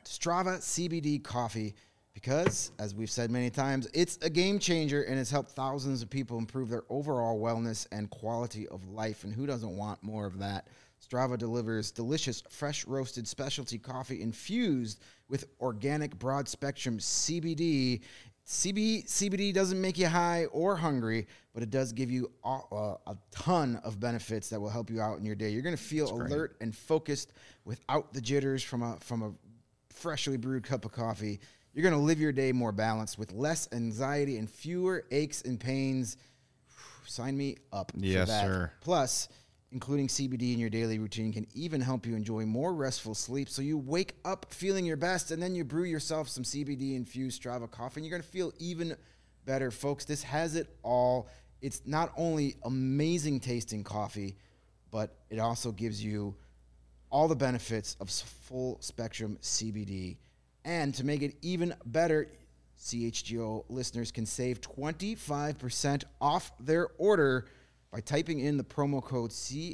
CBD coffee because, as we've said many times, it's a game changer and it's helped thousands of people improve their overall wellness and quality of life. And who doesn't want more of that? Strava delivers delicious, fresh roasted specialty coffee infused with organic broad spectrum CBD CBD doesn't make you high or hungry, but it does give you a ton of benefits that will help you out in your day. You're going to feel alert and focused without the jitters from a freshly brewed cup of coffee. You're going to live your day more balanced with less anxiety and fewer aches and pains. Sign me up for that. Yes, sir. Plus, including CBD in your daily routine can even help you enjoy more restful sleep, so you wake up feeling your best, and then you brew yourself some CBD-infused Strava coffee, and you're going to feel even better. Folks, this has it all. It's not only amazing tasting coffee, but it also gives you all the benefits of full-spectrum CBD. And to make it even better, CHGO listeners can save 25% off their order by typing in the promo code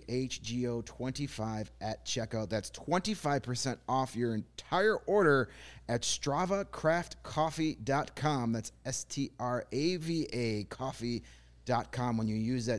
CHGO25 at checkout. That's 25% off your entire order at StravaCraftCoffee.com. That's STRAVA coffee.com when you use that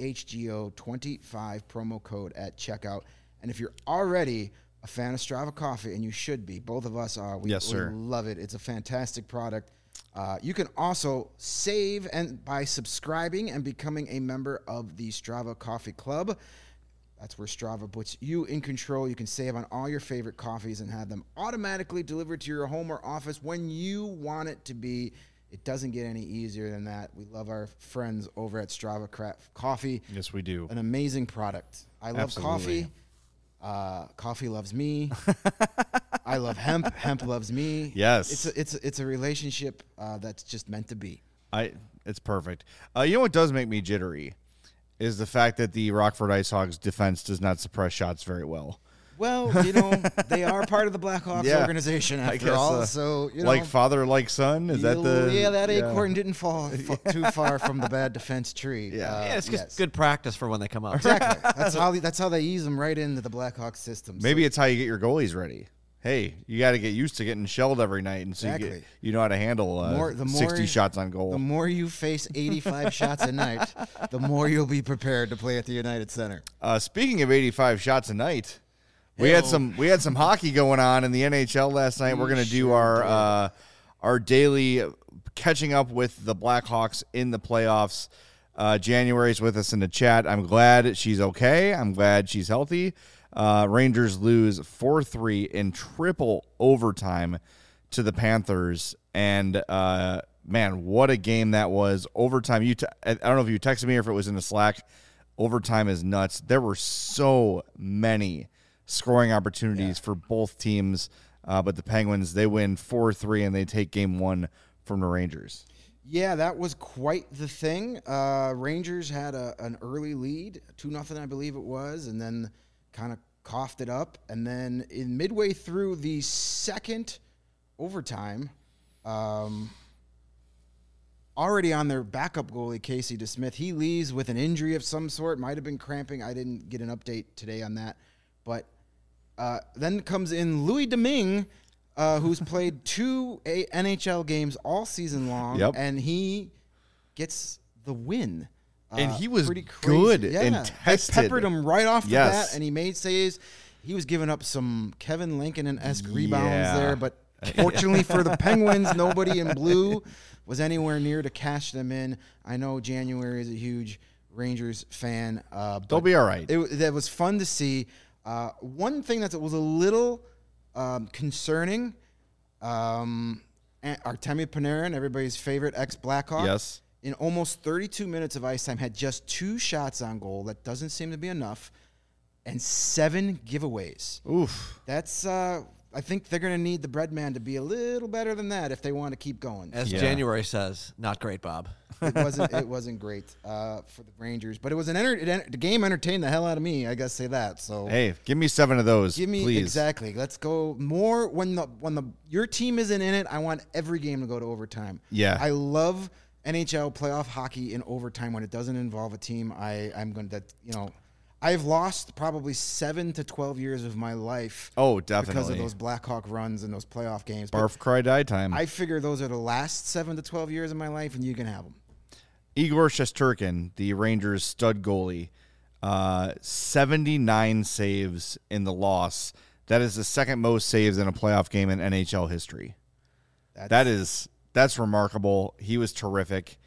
CHGO25 promo code at checkout. And if you're already a fan of Strava Coffee, and you should be, both of us are. Yes, sir. We love it. It's a fantastic product. You can also save by subscribing and becoming a member of the Strava Coffee Club. That's where Strava puts you in control. You can save on all your favorite coffees and have them automatically delivered to your home or office when you want it to be. It doesn't get any easier than that. We love our friends over at Strava Craft Coffee. Yes, we do. An amazing product. I love coffee. Coffee loves me. I love hemp. Hemp loves me. Yes, it's a relationship that's just meant to be. It's perfect. You know what does make me jittery is the fact that the Rockford Ice Hogs defense does not suppress shots very well. Well, they are part of the Blackhawks organization after all. So like father, like son. Is that the that acorn didn't fall too far from the bad defense tree. It's just good practice for when they come up. Exactly. That's how they ease them right into the Blackhawks system. Maybe it's how you get your goalies ready. Hey, you got to get used to getting shelled every night, and so you know how to handle 60 shots on goal. The more you face 85 shots a night, the more you'll be prepared to play at the United Center. Speaking of 85 shots a night. We had some hockey going on in the NHL last night. We're going to do our daily catching up with the Blackhawks in the playoffs. January's with us in the chat. I'm glad she's okay. I'm glad she's healthy. Rangers lose 4-3 in triple overtime to the Panthers. And, man, what a game that was. Overtime. I don't know if you texted me or if it was in the Slack. Overtime is nuts. There were so many scoring opportunities for both teams, but the Penguins, they win 4-3 and they take game one from the Rangers. Yeah, that was quite the thing. Rangers had an early lead, 2-0 I believe it was, and then kind of coughed it up. And then in midway through the second overtime, already on their backup goalie, Casey DeSmith, he leaves with an injury of some sort, might have been cramping. I didn't get an update today on that. But then comes in Louis Domingue, who's played 2 NHL games all season long, and he gets the win. And he was pretty crazy. Good and tested. They peppered him right off the bat, and he made saves. He was giving up some Kevin Lankinen-esque rebounds there, but fortunately for the Penguins, nobody in blue was anywhere near to cash them in. I know January is a huge Rangers fan. They'll be all right. That was fun to see. One thing that was a little concerning, Artemi Panarin, everybody's favorite ex-Blackhawk, in almost 32 minutes of ice time, had just 2 shots on goal. That doesn't seem to be enough. And 7 giveaways. Oof. That's, I think they're going to need the bread man to be a little better than that if they want to keep going. As January says, not great, Bob. It wasn't great for the Rangers, but it was the game entertained the hell out of me. I gotta say that. So hey, give me 7 of those, please. Exactly. Let's go more when your team isn't in it. I want every game to go to overtime. Yeah, I love NHL playoff hockey in overtime when it doesn't involve a team. I'm going to I've lost probably 7 to 12 years of my life. Oh, definitely. Because of those Blackhawk runs and those playoff games. Barf, cry, die time. I figure those are the last 7 to 12 years of my life, and you can have them. Igor Shesterkin, the Rangers stud goalie, 79 saves in the loss. That is the second most saves in a playoff game in NHL history. That is That's remarkable. He was terrific.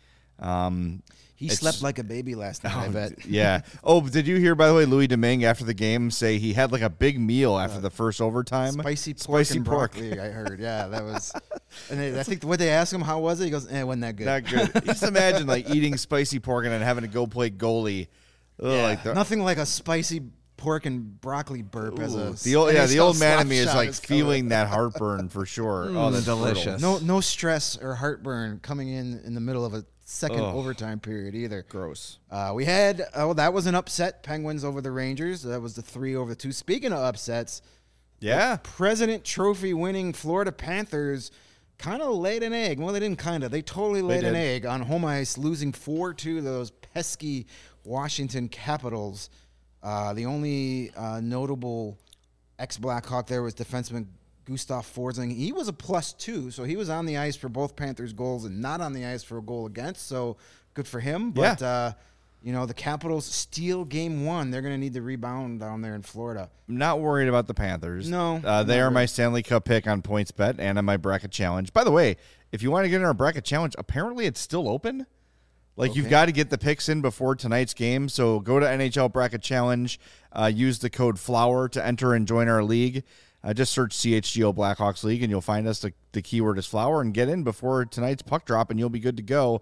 He slept like a baby last night, I bet. Yeah. Oh, did you hear, by the way, Louis Domingue after the game say he had like a big meal after the first overtime? Spicy pork. Broccoli, I heard. Yeah, that was. And I think what they asked him, how was it? He goes, it wasn't that good. Not good. Just imagine like eating spicy pork and then having to go play goalie. Ugh, Nothing like a spicy pork and broccoli burp as a the old man in me is like feeling that heartburn for sure. Oh, that's delicious. No stress or heartburn coming in the middle of a second overtime period either. Gross. We had that was an upset. Penguins over the Rangers. That was the 3-2. Speaking of upsets, yeah, President Trophy winning Florida Panthers kind of laid an egg. Well, they didn't kind of. They totally laid an egg on home ice, losing 4-2 to those pesky Washington Capitals. The only notable ex-Blackhawk there was defenseman Gustav Forsling. He was a +2, so he was on the ice for both Panthers goals and not on the ice for a goal against, so good for him. But, the Capitals steal game 1. They're going to need to rebound down there in Florida. I'm not worried about the Panthers. No. They are my Stanley Cup pick on PointsBet and on my bracket challenge. By the way, if you want to get in our bracket challenge, apparently it's still open. You've got to get the picks in before tonight's game. So go to NHL Bracket Challenge, use the code FLOWER to enter and join our league. Just search CHGO Blackhawks League, and you'll find us. The keyword is flower, and get in before tonight's puck drop, and you'll be good to go.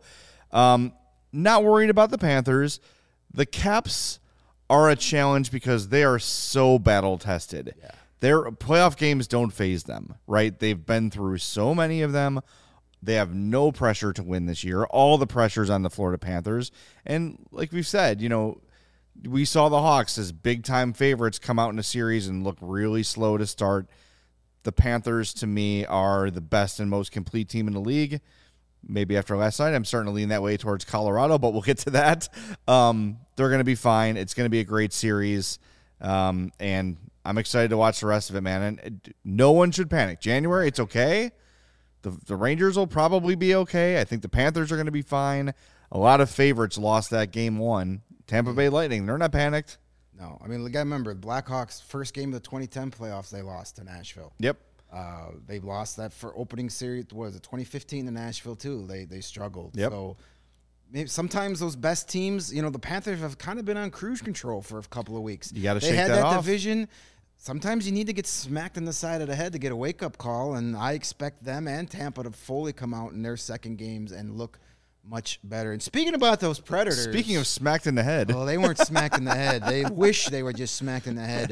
Not worried about the Panthers. The Caps are a challenge because they are so battle-tested. Yeah. Their playoff games don't faze them, right? They've been through so many of them. They have no pressure to win this year. All the pressure's on the Florida Panthers. And like we've said, we saw the Hawks as big-time favorites come out in a series and look really slow to start. The Panthers, to me, are the best and most complete team in the league. Maybe after last night, I'm starting to lean that way towards Colorado, but we'll get to that. They're going to be fine. It's going to be a great series, and I'm excited to watch the rest of it, man. And no one should panic. January, it's okay. The Rangers will probably be okay. I think the Panthers are going to be fine. A lot of favorites lost that game 1. Tampa Bay Lightning, they're not panicked. No. I mean, you got to remember, the Blackhawks' first game of the 2010 playoffs, they lost to Nashville. Yep. They lost that for opening series. What was it, 2015 to Nashville, too? They struggled. Yep. So maybe sometimes those best teams, the Panthers have kind of been on cruise control for a couple of weeks. You got to shake that off. They had that division. Sometimes you need to get smacked in the side of the head to get a wake-up call, and I expect them and Tampa to fully come out in their second games and look much better. And speaking about those Predators. Speaking of smacked in the head. Well, they weren't smacked in the head. They wish they were just smacked in the head.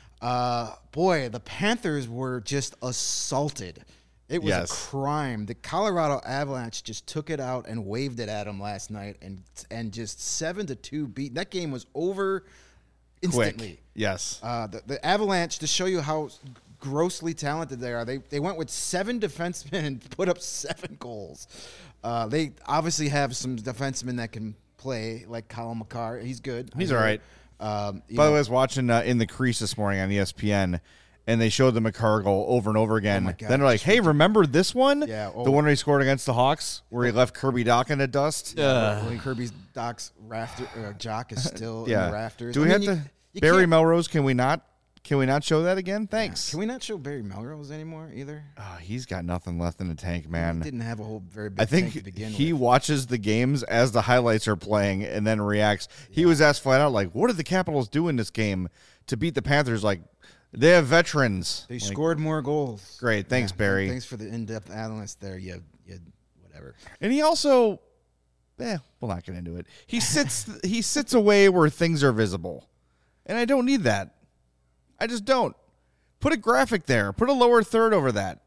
Boy, the Panthers were just assaulted. It was a crime. The Colorado Avalanche just took it out and waved it at them last night and just 7-2 beat. That game was over instantly. Quick. Yes. The Avalanche, to show you how grossly talented they are, they went with 7 defensemen and put up 7 goals. They obviously have some defensemen that can play, like Colin McCarr. He's good. He's all right. By the way, I was watching In the Crease this morning on ESPN, and they showed the McCarr goal over and over again. God, then they're like, hey, remember this one? Yeah. The one where he scored against the Hawks, where he left Kirby Dach in the dust? Kirby Dach's jock is still in the rafters. Do we have to... Barry Melrose, can we not show that again? Thanks. Yeah. Can we not show Barry Melrose anymore either? He's got nothing left in the tank, man. He didn't have a whole very big tank to begin with. He watches the games as the highlights are playing and then reacts. He was asked flat out, like, what did the Capitals do in this game to beat the Panthers? Like, they have veterans. They scored more goals. Great. Thanks, Barry. Thanks for the in-depth analyst there. You whatever. And he also, we'll not get into it. He sits away where things are visible. And I don't need that. I just don't. Put a graphic there. Put a lower third over that.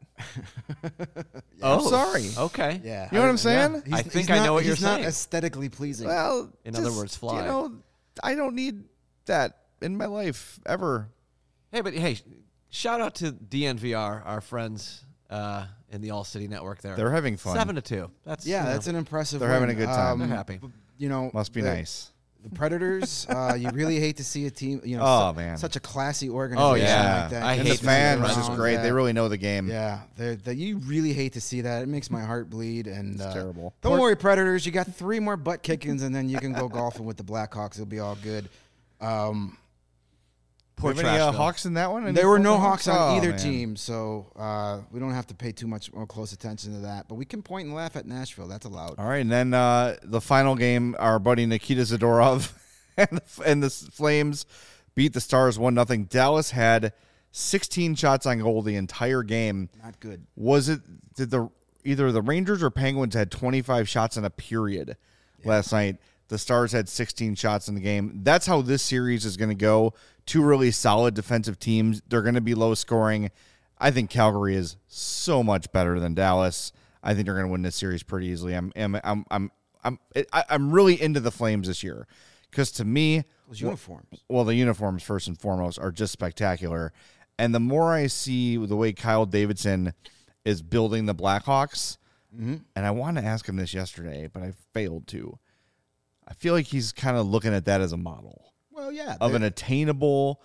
I'm sorry. Okay. Yeah. You know what I'm saying? I think I know what you're saying. He's not aesthetically pleasing. Well, in other words, fly. I don't need that in my life ever. Hey, shout out to DNVR, our friends in the All City Network there. They're having fun. 7-2. That's an impressive They're win. having a good time. They're happy. Must be nice. The Predators, you really hate to see a team, man, such a classy organization like that. I hate the fans. It's just great. Yeah. They really know the game. Yeah, you really hate to see that. It makes my heart bleed. And it's terrible. Don't worry, Predators. You got 3 more butt kickings, and then you can go golfing with the Blackhawks. It'll be all good. Poor Do you have any Trashville. Hawks in that one? Any There were no Florida Hawks on either man. team, so we don't have to pay too much more close attention to that. But we can point and laugh at Nashville. That's allowed. All right, and then the final game, our buddy Nikita Zadorov and the Flames beat the Stars 1-0. Dallas had 16 shots on goal the entire game. Not good. Did either the Rangers or Penguins had 25 shots in a period last night? The Stars had 16 shots in the game. That's how this series is going to go. Two really solid defensive teams. They're going to be low scoring. I think Calgary is so much better than Dallas. I think they're going to win this series pretty easily. I'm really into the Flames this year because to me, Those uniforms. well, the uniforms first and foremost are just spectacular. And the more I see the way Kyle Davidson is building the Blackhawks, and I wanted to ask him this yesterday, but I failed to. I feel like he's kind of looking at that as a model Well, yeah. of an attainable.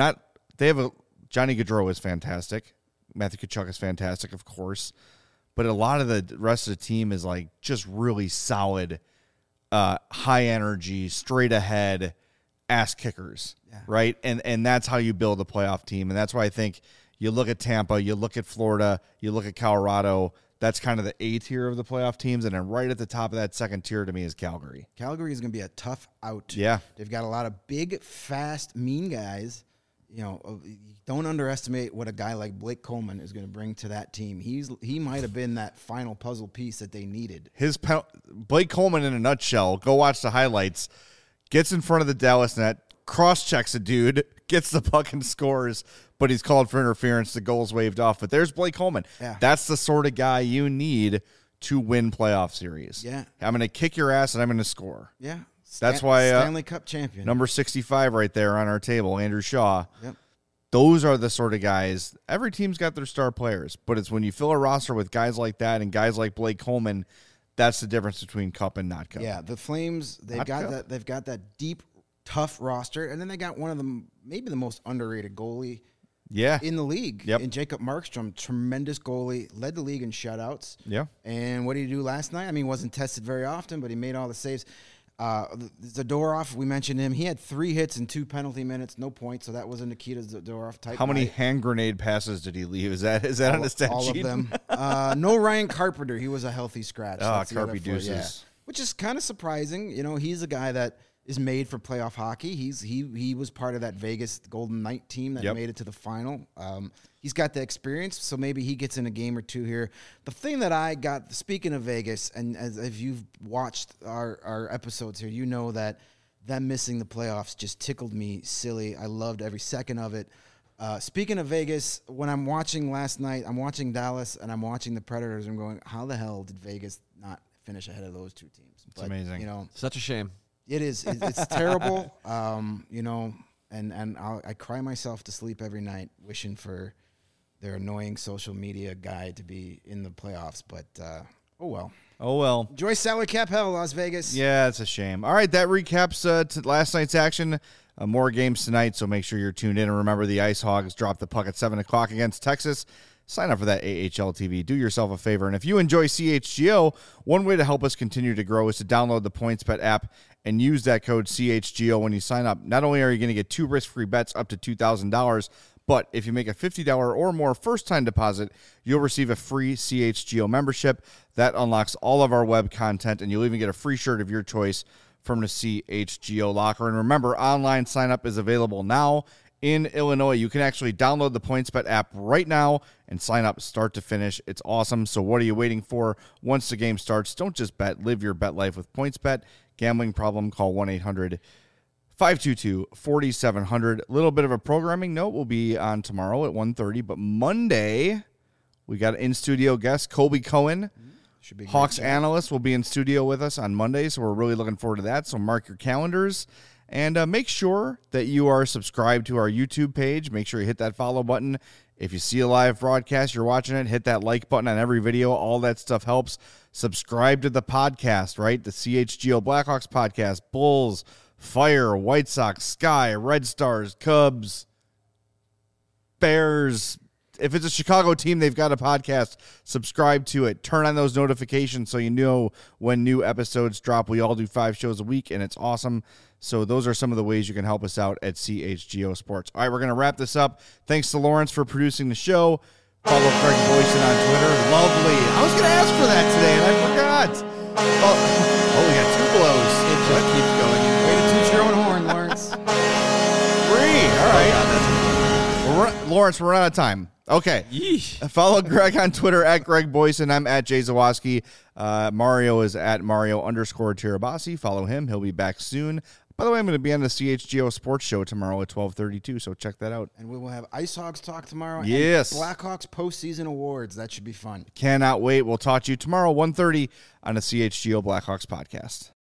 Johnny Gaudreau is fantastic. Matthew Tkachuk is fantastic, of course. But a lot of the rest of the team is like just really solid, high energy, straight ahead ass kickers, right? And that's how you build a playoff team. And that's why I think you look at Tampa, you look at Florida, you look at Colorado. That's kind of the A tier of the playoff teams. And then right at the top of that second tier to me is Calgary. Calgary is going to be a tough out. Yeah. They've got a lot of big, fast, mean guys. You know, don't underestimate what a guy like Blake Coleman is going to bring to that team. He might have been that final puzzle piece that they needed. Blake Coleman in a nutshell, go watch the highlights, gets in front of the Dallas net, cross-checks a dude, gets the puck and scores, but he's called for interference. The goal's waved off. But there's Blake Coleman. Yeah. That's the sort of guy you need to win playoff series. Yeah. I'm going to kick your ass, and I'm going to score. Yeah. That's why Stanley Cup champion. Number 65 right there on our table, Andrew Shaw. Yep. Those are the sort of guys. Every team's got their star players, but it's when you fill a roster with guys like that and guys like Blake Coleman, that's the difference between cup and not cup. Yeah, the Flames, they've Not got cup. that. They've got that deep, tough roster, and then they got one of them, maybe the most underrated goalie Yeah. in the league. Yep. In Jacob Markstrom, tremendous goalie, led the league in shutouts. Yeah. And what did he do last night? I mean, he wasn't tested very often, but he made all the saves. Zadorov, we mentioned him. He had 3 hits and 2 penalty minutes, no points. So that was a Nikita Zadorov type. How many night. hand grenade passes did he leave? Is that on the stat All sheet? of them. No Ryan Carpenter. He was a healthy scratch. Ah, That's the other Carpy four, yeah. deuces. Which is kind of surprising. You know, he's a guy that is made for playoff hockey. He was part of that Vegas Golden Knight team that Yep. made it to the final. He's got the experience, so maybe he gets in a game or two here. The thing that I got, speaking of Vegas, and as you've watched our episodes here, you know that them missing the playoffs just tickled me silly. I loved every second of it. Speaking of Vegas, when I'm watching last night, I'm watching Dallas and I'm watching the Predators. I'm going, how the hell did Vegas not finish ahead of those two teams? It's amazing. You know, Such a shame. it is. It's terrible. You know, and I cry myself to sleep every night wishing for their annoying social media guy to be in the playoffs. But oh well. Oh, well. Enjoy salary cap hell, Las Vegas. Yeah, it's a shame. All right, that recaps last night's action. More games tonight, so make sure you're tuned in. And remember, the Ice Hogs drop the puck at 7 o'clock against Texas. Sign up for that AHL TV. Do yourself a favor. And if you enjoy CHGO, one way to help us continue to grow is to download the PointsBet app and use that code CHGO when you sign up. Not only are you going to get 2 risk-free bets up to $2,000, but if you make a $50 or more first-time deposit, you'll receive a free CHGO membership. That unlocks all of our web content, and you'll even get a free shirt of your choice from the CHGO locker. And remember, online sign-up is available now in Illinois. You can actually download the PointsBet app right now and sign up start to finish. It's awesome. So what are you waiting for? Once the game starts, don't just bet. Live your bet life with PointsBet. Gambling problem, call 1-800-522-4700. A little bit of a programming note will be on tomorrow at 1:30, but Monday we got an in-studio guest, Colby Cohen. Should be a great Hawks chat. analyst will be in studio with us on Monday, so we're really looking forward to that. So mark your calendars and make sure that you are subscribed to our YouTube page. Make sure you hit that follow button. If you see a live broadcast, you're watching it, hit that like button on every video. All that stuff helps. Subscribe to the podcast, right? The CHGO Blackhawks podcast, Bulls, Fire, White Sox, Sky, Red Stars, Cubs, Bears, if it's a Chicago team, they've got a podcast. Subscribe to it. Turn on those notifications so you know when new episodes drop. We all do 5 shows a week, and it's awesome. So those are some of the ways you can help us out at CHGO Sports. All right, we're going to wrap this up. Thanks to Lawrence for producing the show. Follow Greg Boysen on Twitter. Lovely. I was going to ask for that today, and I forgot. Oh, we got 2 blows. It just keeps going. Way to toot your own horn, Lawrence. 3. All right. Lawrence, we're out of time. Okay. Yeesh. Follow Greg on Twitter at Greg Boysen. I'm at Jay Zawoski. Mario is at Mario_Tirabassi. Follow him. He'll be back soon. By the way, I'm going to be on the CHGO Sports Show tomorrow at 12:32, so check that out. And we will have Ice Hogs talk tomorrow. Yes. And Blackhawks postseason awards. That should be fun. Cannot wait. We'll talk to you tomorrow, 1:30 on the CHGO Blackhawks podcast.